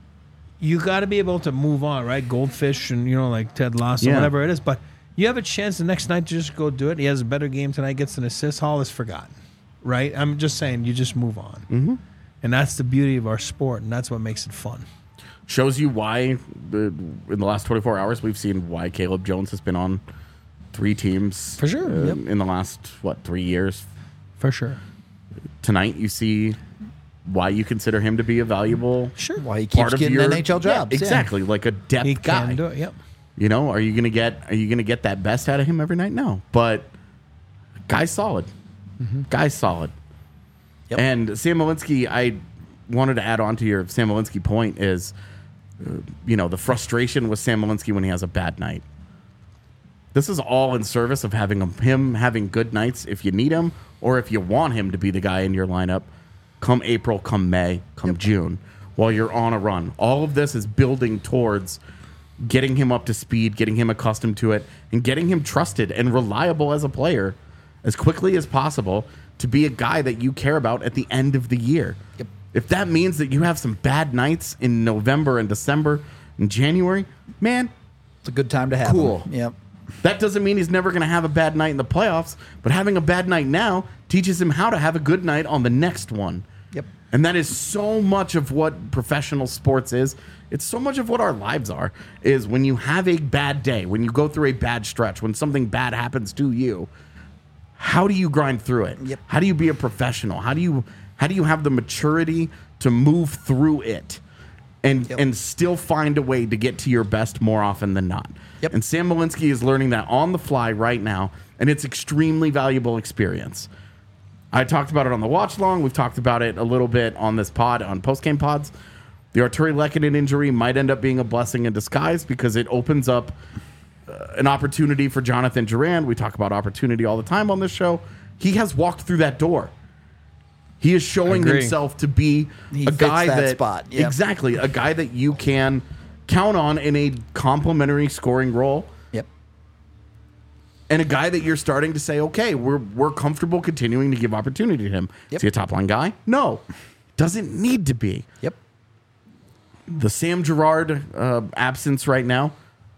You got to be able to move on, right? Goldfish and, you know, like Ted Lasso, Yeah. whatever it is. But you have a chance the next night to just go do it. He has a better game tonight, gets an assist. Hall is forgotten, right? I'm just saying, you just move on. Mm-hmm. And that's the beauty of our sport, and that's what makes it fun. Shows you why the, in the last twenty-four hours we've seen why Caleb Jones has been on three teams For sure, uh, yep. in the last what three years. For sure. Tonight you see why you consider him to be a valuable Sure. Why he part keeps of getting your N H L jobs. Yeah, yeah. exactly, like a depth He guy. can do it, yep. You know, are you gonna get are you gonna get that best out of him every night? No, but guy's solid. Guy's solid. Yep. And Sam Malinsky, I wanted to add on to your Sam Malinsky point is, uh, you know, the frustration with Sam Malinsky when he has a bad night. This is all in service of having him, him having good nights if you need him or if you want him to be the guy in your lineup come April, come May, come June, while you're on a run. All of this is building towards getting him up to speed, getting him accustomed to it, and getting him trusted and reliable as a player as quickly as possible to be a guy that you care about at the end of the year. Yep. If that means that you have some bad nights in November and December and January, man, It's a good time to have Cool. him. Yep. That doesn't mean he's never going to have a bad night in the playoffs, but having a bad night now teaches him how to have a good night on the next one. Yep. And that is so much of what professional sports is. It's so much of what our lives are, is when you have a bad day, when you go through a bad stretch, when something bad happens to you, how do you grind through it? Yep. How do you be a professional? How do you how do you have the maturity to move through it and Yep. and still find a way to get to your best more often than not? Yep. And Sam Malinsky is learning that on the fly right now, and it's extremely valuable experience. I talked about it on the watch long. We've talked about it a little bit on this pod, on post-game pods. The Arturi Lehkonen injury might end up being a blessing in disguise because it opens up uh, an opportunity for Jonathan Durand. We talk about opportunity all the time on this show. He has walked through that door. He is showing Agree. himself to be He a fits guy that that, spot. Yep. exactly, a guy that you can count on in a complementary scoring role. Yep. And a guy that you're starting to say, okay, we're we're comfortable continuing to give opportunity to him. Yep. Is he a top line guy? No. Doesn't need to be. Yep. The Sam Girard uh, absence right now,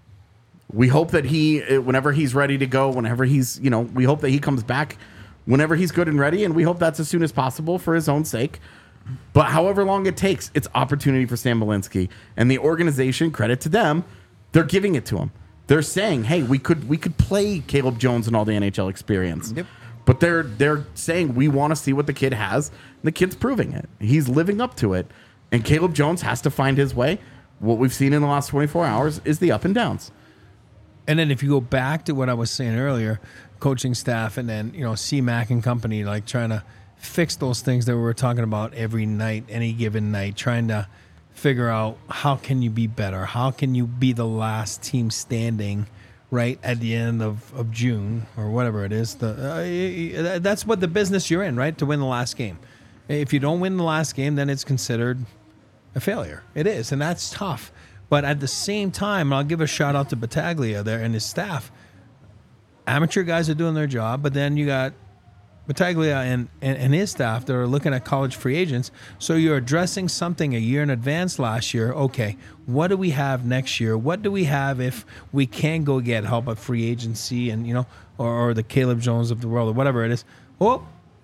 we hope that he, uh, whenever he's ready to go, whenever he's, you know, we hope that he comes back whenever he's good and ready, and we hope that's as soon as possible for his own sake. But however long it takes, it's opportunity for Sam Malinsky. And the organization, credit to them, they're giving it to him. They're saying, hey, we could we could play Caleb Jones and all the N H L experience. Yep. But they're they're saying we want to see what the kid has. And the kid's proving it. He's living up to it. And Caleb Jones has to find his way. What we've seen in the last twenty-four hours is the up and downs. And then if you go back to what I was saying earlier, coaching staff and then, you know, C Mac and company, like trying to fix those things that we were talking about every night, any given night, trying to figure out how can you be better? How can you be the last team standing right at the end of, of June or whatever it is? The uh, that's what the business you're in, right? To win the last game. If you don't win the last game, then it's considered a failure. It is, and that's tough. But at the same time, I'll give a shout out to Battaglia there and his staff. Amateur guys are doing their job, but then you got Battaglia and, and, and his staff that are looking at college free agents. So you're addressing something a year in advance last year. Okay, what do we have next year? What do we have if we can go get help at free agency and, you know, or, or the Caleb Jones of the world or whatever it is? Oh,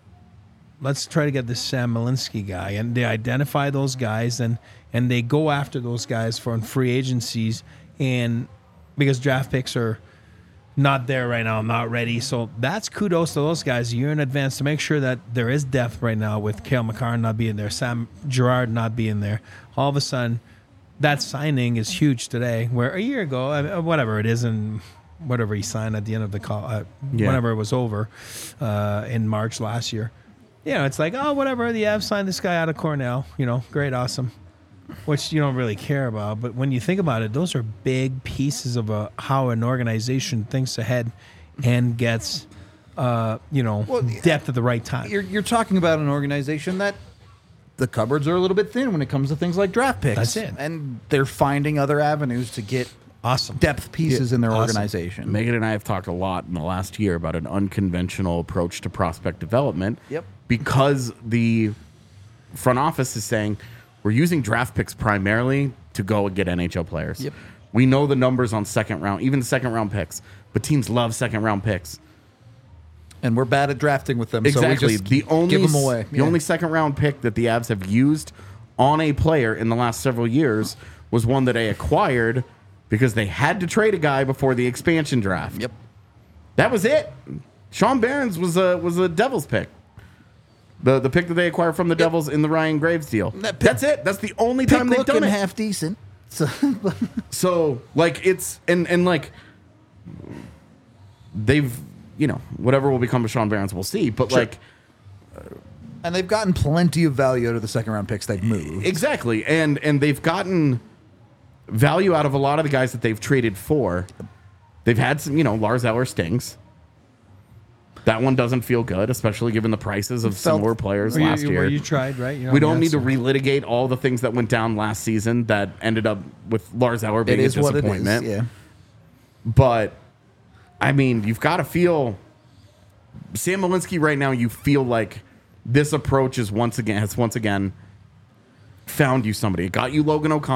let's try to get this Sam Malinsky guy. And they identify those guys and, and they go after those guys for free agencies. And because draft picks are not there right now, not ready. So that's kudos to those guys a year in advance to make sure that there is depth right now with Cale Makar not being there, Sam Girard not being there. All of a sudden, that signing is huge today, where a year ago, I mean, whatever it is, and whatever he signed at the end of the call, uh, Yeah. whenever it was over uh, in March last year. You know, it's like, oh, whatever, the Avs signed this guy out of Cornell. You know, great, awesome. Which you don't really care about. But when you think about it, those are big pieces of a, how an organization thinks ahead and gets, uh, you know, Well, depth at the right time. You're, you're talking about an organization that the cupboards are a little bit thin when it comes to things like draft picks. That's it. And they're finding other avenues to get Awesome. depth pieces in their Awesome. organization. Megan and I have talked a lot in the last year about an unconventional approach to prospect development. Yep. Because the front office is saying we're using draft picks primarily to go and get N H L players. Yep. We know the numbers on second round, even second round picks, but teams love second round picks. And we're bad at drafting with them. Exactly. So we just the only give them away. the Yeah. only second round pick that the Avs have used on a player in the last several years was one that they acquired because they had to trade a guy before the expansion draft. Yep. That was it. Sean Barons was a was a Devils pick. The the pick that they acquired from the Devils in the Ryan Graves deal. That pick- That's it. That's the only Pick time they've looking done it. half decent. So So like it's and and like they've you know whatever will become of Sean Barons we'll see. But Sure. like and they've gotten plenty of value out of the second round picks they've moved. exactly and and they've gotten value out of a lot of the guys that they've traded for. They've had some you know Lars Eller stings. That one doesn't feel good, especially given the prices of Felt- similar players Where you, last year. where you tried, right? You know, We don't yeah, need to so- relitigate all the things that went down last season that ended up with Lars Eller It being a is what it disappointment. is. Yeah. But I mean, you've got to feel Sam Malinsky right now. You feel like this approach is once again has once again found you somebody. It got you Logan O'Connor,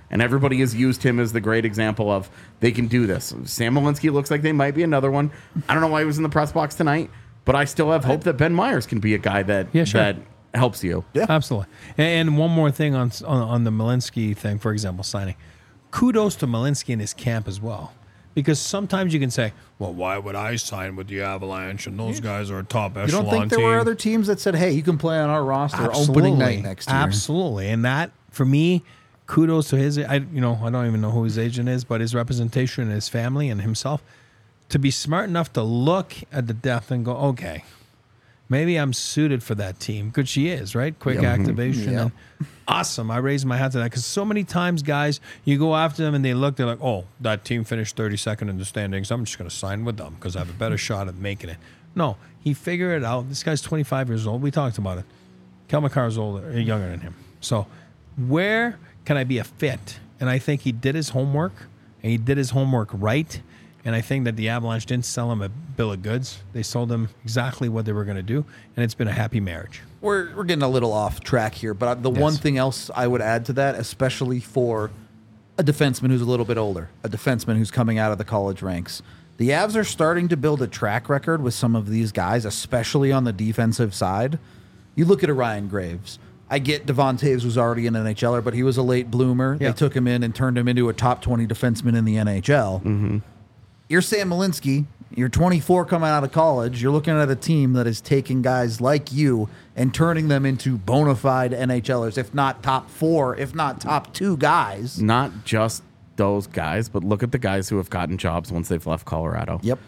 And everybody has used him as the great example of they can do this. Sam Malinsky looks like they might be another one. I don't know why he was in the press box tonight, but I still have hope that Ben Myers can be a guy that Yeah, sure. that helps you. Yeah. Absolutely. And, and one more thing on, on on the Malinsky thing, for example, signing. Kudos to Malinsky and his camp as well. Because sometimes you can say, well, why would I sign with the Avalanche? And those guys are a top echelon You don't think there team. were other teams that said, "Hey, you can play on our roster Absolutely. opening night next year"? Absolutely. And that, for me, kudos to his, I, you know, I don't even know who his agent is, but his representation and his family and himself to be smart enough to look at the depth and go, okay, maybe I'm suited for that team. Good she is, right? Quick activation. Yep. And awesome. I raise my hat to that because so many times, guys, you go after them and they look, they're like, oh, that team finished thirty-second in the standings. I'm just going to sign with them because I have a better shot at making it. No, he figured it out. This guy's twenty-five years old. We talked about it. Kel McCarr's older, younger than him. So where can I be a fit? And I think he did his homework, and he did his homework right. And I think that the Avalanche didn't sell him a bill of goods. They sold him exactly what they were going to do, and it's been a happy marriage. We're we're getting a little off track here, but the Yes. one thing else I would add to that, especially for a defenseman who's a little bit older, a defenseman who's coming out of the college ranks, the Avs are starting to build a track record with some of these guys, especially on the defensive side. You look at a Ryan Graves. I get Devon Taves was already an N H L er, but he was a late bloomer. Yeah. They took him in and turned him into a top twenty defenseman in the N H L. Mm-hmm. You're Sam Malinsky. You're twenty-four coming out of college. You're looking at a team that is taking guys like you and turning them into bona fide N H L ers, if not top four, if not top two guys. Not just those guys, but look at the guys who have gotten jobs once they've left Colorado. Yep.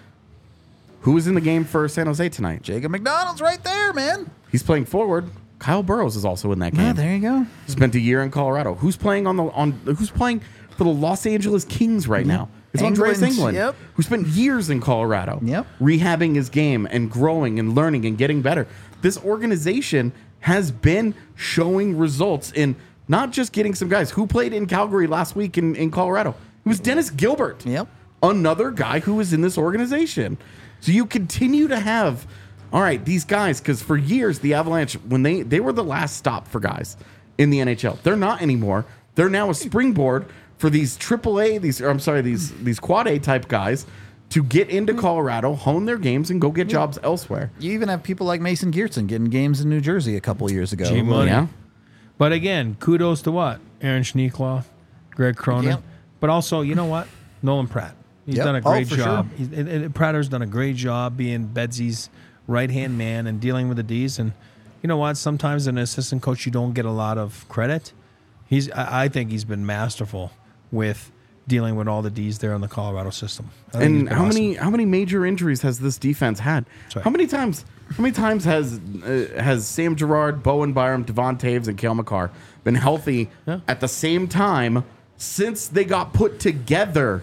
Who was in the game for San Jose tonight? Jacob McDonald's right there, man. He's playing forward. Kyle Burrows is also in that game. Yeah, there you go. Spent a year in Colorado. Who's playing on the on? Who's playing for the Los Angeles Kings right now? It's Andreas England, England, yep. who spent years in Colorado, Yep. rehabbing his game and growing and learning and getting better. This organization has been showing results in not just getting some guys who played in Calgary last week in, in Colorado. It was Dennis Gilbert, Yep. another guy who was in this organization. So you continue to have, all right, these guys, because for years the Avalanche, when they they were the last stop for guys in the N H L, they're not anymore. They're now a springboard for these triple A, these or I'm sorry, these these quad A type guys to get into Colorado, hone their games, and go get jobs elsewhere. You even have people like Mason Geertsen getting games in New Jersey a couple years ago. G money. Yeah. But again, kudos to what? Aaron Schneekloth, Greg Cronin. Yep. But also, you know what? Nolan Pratt. He's Yep. done a Oh, great for job. sure. He's, and, and Pratter's done a great job being Bedsy's right-hand man and dealing with the D's. And you know what? Sometimes an assistant coach, you don't get a lot of credit. He's, I, I think he's been masterful with dealing with all the D's there in the Colorado system. I think he's And been how awesome. many how many major injuries has this defense had? right. How many times how many times has uh, has Sam Girard, Bowen Byram, Devon Taves, and Cale Makar been healthy Yeah. at the same time since they got put together?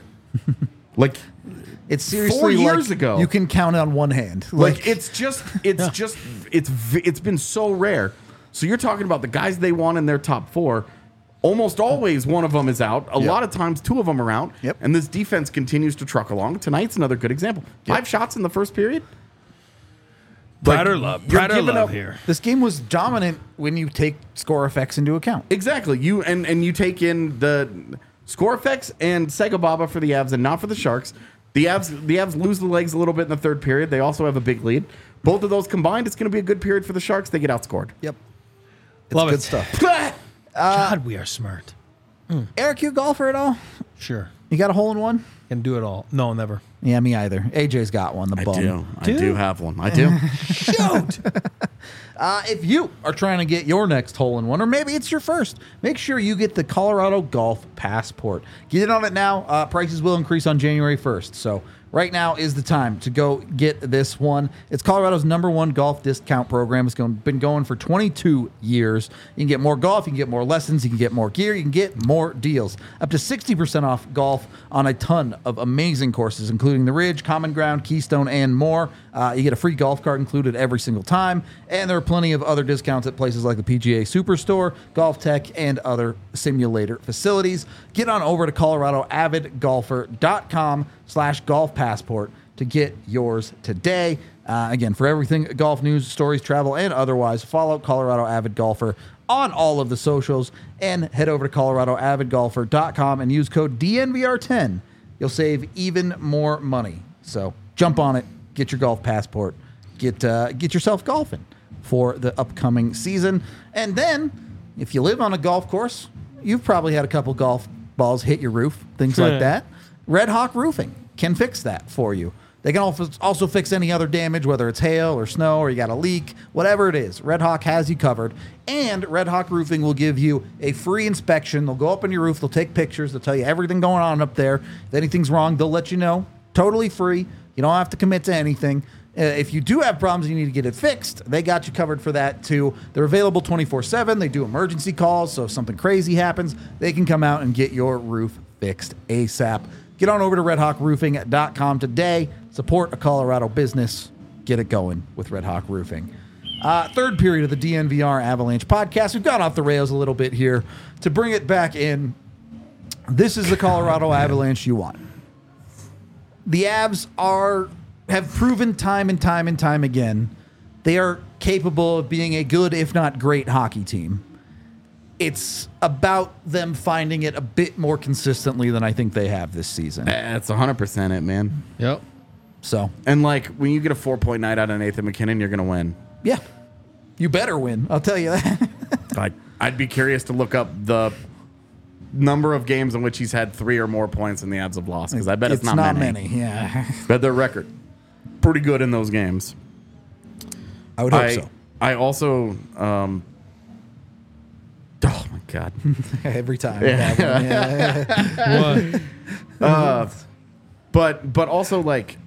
Like It's seriously Four years like ago. You can count on one hand. like it's just it's just it's v- it's been so rare. So you're talking about the guys they want in their top four. Almost always one of them is out. A Yep. lot of times two of them are out. Yep. And this defense continues to truck along. Tonight's another good example. Five shots in the first period. Pratter love. you're Pratter giving love up- here. This game was dominant when you take score effects into account. Exactly. You and and you take in the score effects and Sega Baba for the Avs and not for the Sharks. The Avs the Avs lose the legs a little bit in the third period. They also have a big lead. Both of those combined, it's going to be a good period for the Sharks. They get outscored. Yep. It's Love good it. stuff. God, we are smart. Eric, you a golfer at all? Sure. You got a hole in one? Can do it all. No, never. Yeah, me either. A J's got one, the I bum. do. I Do? do have one. I do. Shoot! uh, if you are trying to get your next hole in one, or maybe it's your first, make sure you get the Colorado Golf Passport. Get in on it now. Uh, prices will increase on January first. So right now is the time to go get this one. It's Colorado's number one golf discount program. It's going, been going for twenty-two years. You can get more golf. You can get more lessons. You can get more gear. You can get more deals. Up to sixty percent off golf on a ton of amazing courses, including the Ridge, Common Ground, Keystone, and more. Uh, you get a free golf cart included every single time. And there are plenty of other discounts at places like the P G A Superstore, Golf Tech, and other simulator facilities. Get on over to Colorado Avid Golfer dot com slash golf passport to get yours today. Uh, again, for everything golf news, stories, travel, and otherwise, follow Colorado Avid Golfer on all of the socials, and head over to Colorado Avid Golfer dot com and use code D N V R ten. You'll save even more money. So jump on it, get your golf passport, get uh, get yourself golfing for the upcoming season. And then, if you live on a golf course, you've probably had a couple golf balls hit your roof, things like that. Red Hawk Roofing can fix that for you. They can also also fix any other damage, whether it's hail or snow or you got a leak, whatever it is. Red Hawk has you covered. And Red Hawk Roofing will give you a free inspection. They'll go up on your roof. They'll take pictures. They'll tell you everything going on up there. If anything's wrong, they'll let you know. Totally free. You don't have to commit to anything. Uh, if you do have problems and you need to get it fixed, they got you covered for that too. They're available twenty-four seven. They do emergency calls, so if something crazy happens, they can come out and get your roof fixed ASAP. Get on over to Red Hawk Roofing dot com today. Support a Colorado business. Get it going with Red Hawk Roofing. Uh, third period of the D N V R Avalanche podcast. We've gone off the rails a little bit here. To bring it back in, this is the Colorado Avalanche you want. The Avs are have proven time and time and time again they are capable of being a good, if not great, hockey team. It's about them finding it a bit more consistently than I think they have this season. That's one hundred percent it, man. Yep. So, And, like, when you get a four-point night out of Nathan McKinnon, you're going to win. yeah, you better win. I'll tell you that. Like, I'd be curious to look up the number of games in which he's had three or more points and the Avs have lost, because I bet it's, it's not, many. Yeah, But their record, pretty good in those games. I would hope I, so. I also... Um, oh, my God. Every time. Yeah. Yeah. What? uh, but but also, like...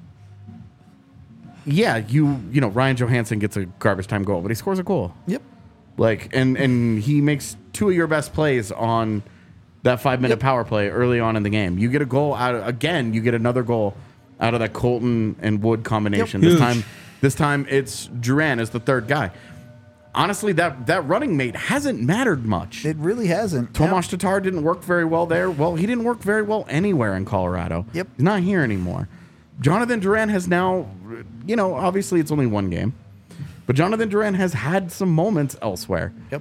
Yeah, you you know, Ryan Johansson gets a garbage time goal, but he scores a goal. Yep. Like, and, and he makes two of your best plays on that five-minute Yep. power play early on in the game. You get a goal out of, again, you get another goal out of that Colton and Wood combination. Yep. This Huge. time this time it's Duran as the third guy. Honestly, that, that running mate hasn't mattered much. It really hasn't. Tomas Tatar didn't work very well there. Well, he didn't work very well anywhere in Colorado. Yep. He's not here anymore. Jonathan Duran has now, you know, obviously it's only one game, but Jonathan Duran has had some moments elsewhere. Yep.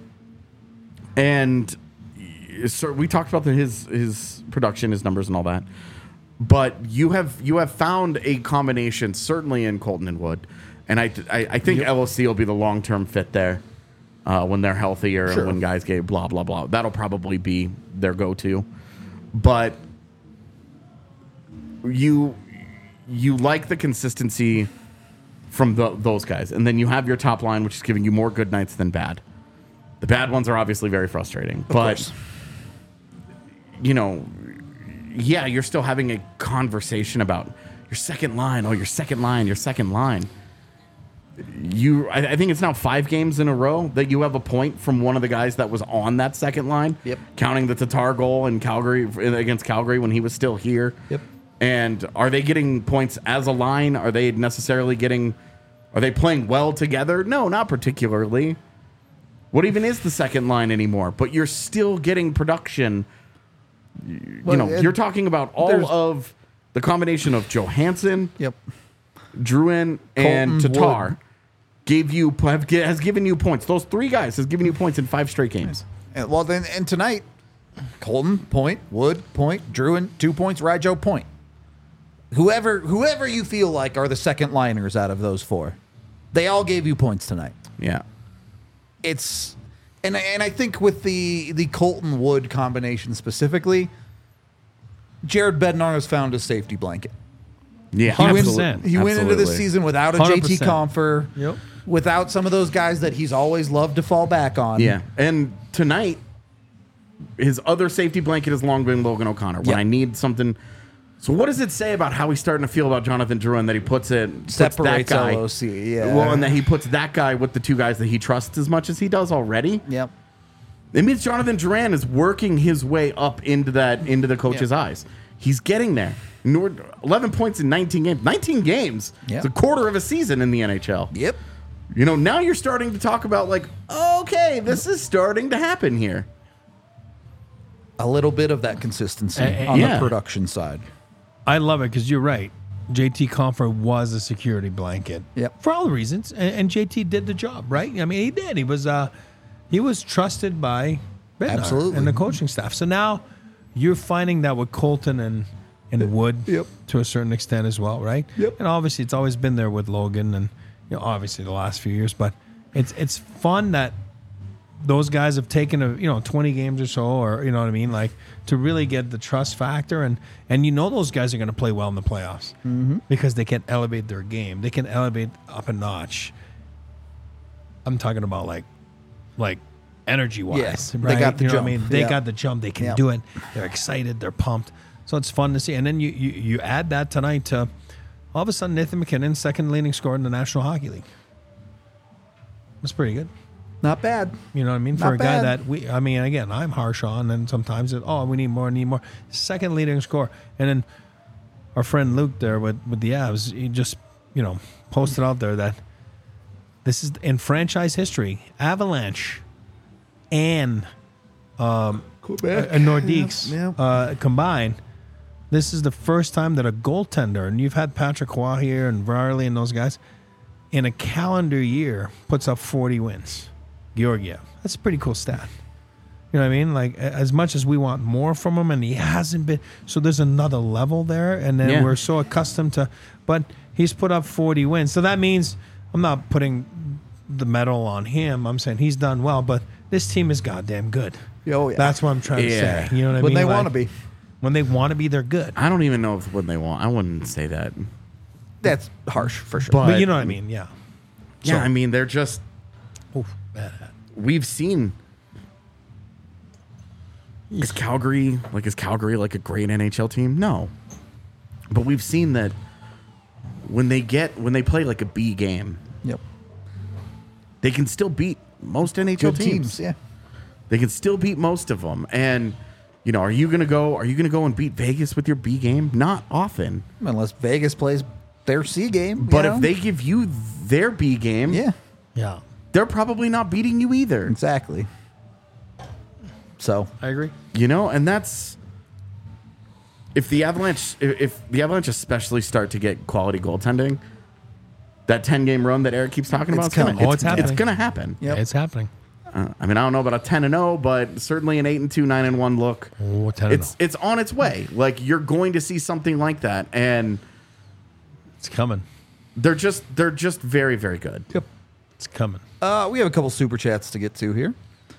And so we talked about the, his his production, his numbers, and all that. But you have you have found a combination, certainly in Colton and Wood, and I I, I think Yep. L O C will be the long term fit there uh, when they're healthier Sure. and when guys get blah blah blah. That'll probably be their go to. But you you like the consistency from the, those guys, and then you have your top line, which is giving you more good nights than bad. The bad ones are obviously very frustrating, Of but course. you know, yeah, you're still having a conversation about your second line. Oh, your second line, your second line. You, I, I think it's now five games in a row that you have a point from one of the guys that was on that second line. Yep. Counting the Tatar goal in Calgary against Calgary when he was still here. Yep. And are they getting points as a line? Are they necessarily getting? Are they playing well together? No, not particularly. What even is the second line anymore? But you're still getting production. You Well, know, it- you're talking about all there's- of the combination of Johansson, Yep. Druin, and Colton, Tatar Wood. gave you have, has given you points. Those three guys has given you points in five straight games. And, well, then, and tonight, Colton, point. Wood, point. Druin, two points. Rijo, point. Whoever, whoever you feel like are the second liners out of those four, they all gave you points tonight. Yeah. It's, and and I think with the the Colton Wood combination specifically, Jared Bednar has found a safety blanket. Yeah, He went, absolutely. he went into this Absolutely. season without a one hundred J T percent. Compher, Yep. without some of those guys that he's always loved to fall back on. Yeah, and tonight, his other safety blanket has long been Logan O'Connor. When Yep. I need something, so what does it say about how he's starting to feel about Jonathan Drouin that he puts it puts Separates that guy, L O C, yeah. Well, and that he puts that guy with the two guys that he trusts as much as he does already. Yep. It means Jonathan Duran is working his way up into that into the coach's Yeah. eyes. He's getting there. Nor- eleven points in nineteen games. nineteen games. Yeah. It's a quarter of a season in the N H L. Yep. You know, now you're starting to talk about like, okay, this is starting to happen here. A little bit of that consistency Eh, eh, on yeah. the production side. I love it because you're right. J T Compher was a security blanket. Yep. For all the reasons. And, and J T did the job, right? I mean, he did. He was, uh, he was trusted by Bednar Absolutely. and the coaching staff. So now you're finding that with Colton and and Wood Yep. to a certain extent as well, right? Yep. And obviously it's always been there with Logan and you know obviously the last few years, but it's it's fun that those guys have taken a you know twenty games or so, or you know what I mean, like to really get the trust factor, and and you know those guys are going to play well in the playoffs Mm-hmm. because they can elevate their game, they can elevate up a notch. I'm talking about like like energy wise, Yes, they right? got the you know jump. what I mean, they Yeah. got the jump, they can Yeah. do it, they're excited, they're pumped, so it's fun to see. And then you you, you add that tonight to all of a sudden Nathan McKinnon, second leading scorer in the National Hockey League. That's pretty good. Not bad. You know what I mean? For Not a guy bad. that we, I mean, again, I'm harsh on, and sometimes it, oh, we need more, need more. Second leading scorer, and then our friend Luke there with with the Avs, he just you know posted out there that this is in franchise history, Avalanche and um, Quebec. and Nordiques Yeah, yeah. uh, combined. This is the first time that a goaltender, and you've had Patrick Roy here and Varley and those guys, in a calendar year puts up forty wins. Georgiev. That's a pretty cool stat. You know what I mean? Like, a- as much as we want more from him, and he hasn't been, so there's another level there, and then Yeah. we're so accustomed to, but he's put up forty wins. So that means, I'm not putting the medal on him, I'm saying he's done well, but this team is goddamn good. Oh, yeah. That's what I'm trying Yeah. to say. You know what I When mean? they Like, want to be. When they want to be, they're good. I don't even know if when they want. I wouldn't say that. That's harsh for sure. But- But you know what I mean? Yeah. Yeah, So- I mean they're just. Oof, bad. We've seen. Is Calgary like is Calgary like a great N H L team? No, but we've seen that when they get when they play like a B game, Yep. they can still beat most N H L Good teams. teams. Yeah. They can still beat most of them. And you know, are you gonna go? Are you gonna go and beat Vegas with your B game? Not often. Unless Vegas plays their C game. you But know? if they give you their B game, Yeah. Yeah. they're probably not beating you either. Exactly. So. I agree. You know, and that's if the Avalanche, if, if the Avalanche especially start to get quality goaltending, that ten game run that Eric keeps talking about, It's it's gonna, coming. Oh, it's happening. It's gonna happen. Yep. It's happening. Uh, I mean, I don't know about a ten and zero, but certainly an eight and two, nine and one look. Oh, ten and It's it's on its way. Like you're going to see something like that, and It's coming. they're just they're just very very good. Yep. It's coming. Uh, we have a couple super chats to get to here.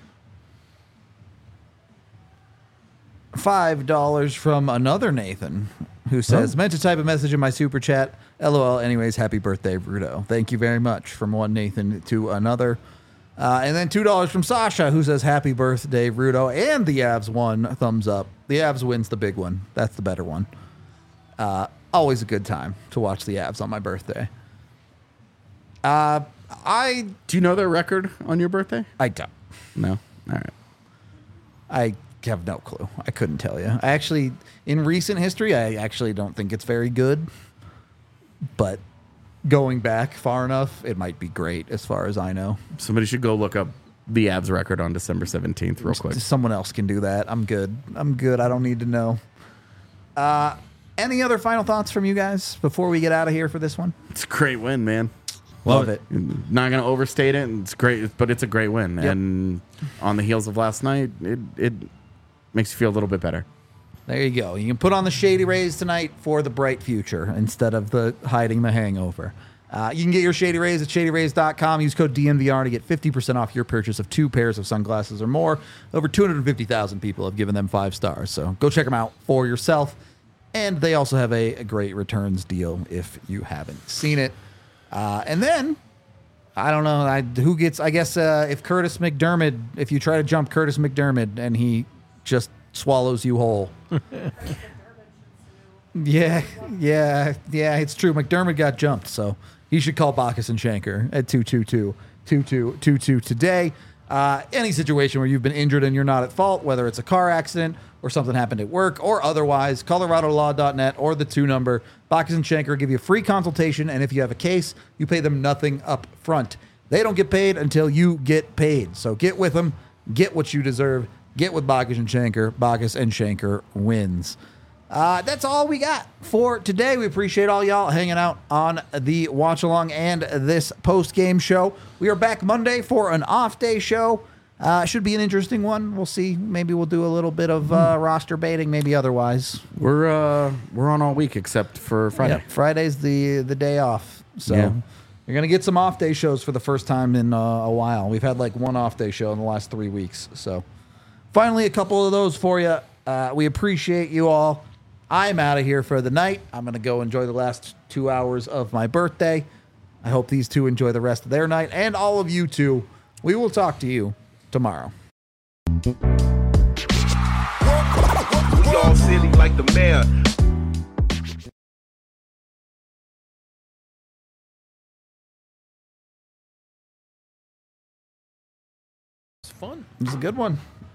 Five dollars from another Nathan, who says, Oh. "Meant to type a message in my super chat. LOL. Anyways, happy birthday, Bruto. Thank you very much." From one Nathan to another, uh, and then two dollars from Sasha, who says, "Happy birthday, Bruto." And the Avs won. Thumbs up. The Avs wins the big one. That's the better one. Uh, always a good time to watch the Avs on my birthday. Uh, I Do you know their record on your birthday? I don't. No. All right. I have no clue. I couldn't tell you. I actually, in recent history, I actually don't think it's very good. But going back far enough, it might be great as far as I know. Somebody should go look up the Avs record on December seventeenth real quick. Someone else can do that. I'm good. I'm good. I don't need to know. Uh, any other final thoughts from you guys before we get out of here for this one? It's a great win, man. Love it. Not going to overstate it. It's great, but it's a great win. Yep. And on the heels of last night, it it makes you feel a little bit better. There you go. You can put on the Shady Rays tonight for the bright future instead of the hiding the hangover. Uh, you can get your Shady Rays at shady rays dot com. Use code D N V R to get fifty percent off your purchase of two pairs of sunglasses or more. Over two hundred fifty thousand people have given them five stars. So go check them out for yourself. And they also have a, a great returns deal if you haven't seen it. Uh, and then, I don't know I, who gets, I guess uh, if Curtis McDermott, if you try to jump Curtis McDermott and he just swallows you whole. yeah, yeah, yeah, it's true. McDermott got jumped, so he should call Bacchus and Shanker at two two two, two two two two today. Uh, any situation where you've been injured and you're not at fault, whether it's a car accident or something happened at work or otherwise, colorado law dot net or the two number. Bacchus and Shanker give you a free consultation, and if you have a case, you pay them nothing up front. They don't get paid until you get paid. So get with them, get what you deserve, get with Bacchus and Shanker. Bacchus and Shanker wins. Uh, that's all we got for today. We appreciate all y'all hanging out on the watch along and this post game show. We are back Monday for an off day show. Uh, should be an interesting one. We'll see. Maybe we'll do a little bit of uh, roster baiting. Maybe otherwise. We're uh, we're on all week except for Friday. Yep, Friday's the the day off. So Yeah. you're gonna get some off day shows for the first time in uh, a while. We've had like one off day show in the last three weeks. So finally, a couple of those for you. Uh, we appreciate you all. I'm out of here for the night. I'm gonna go enjoy the last two hours of my birthday. I hope these two enjoy the rest of their night, and all of you too. We will talk to you tomorrow. We all silly like the mayor. It's fun. It was a good one.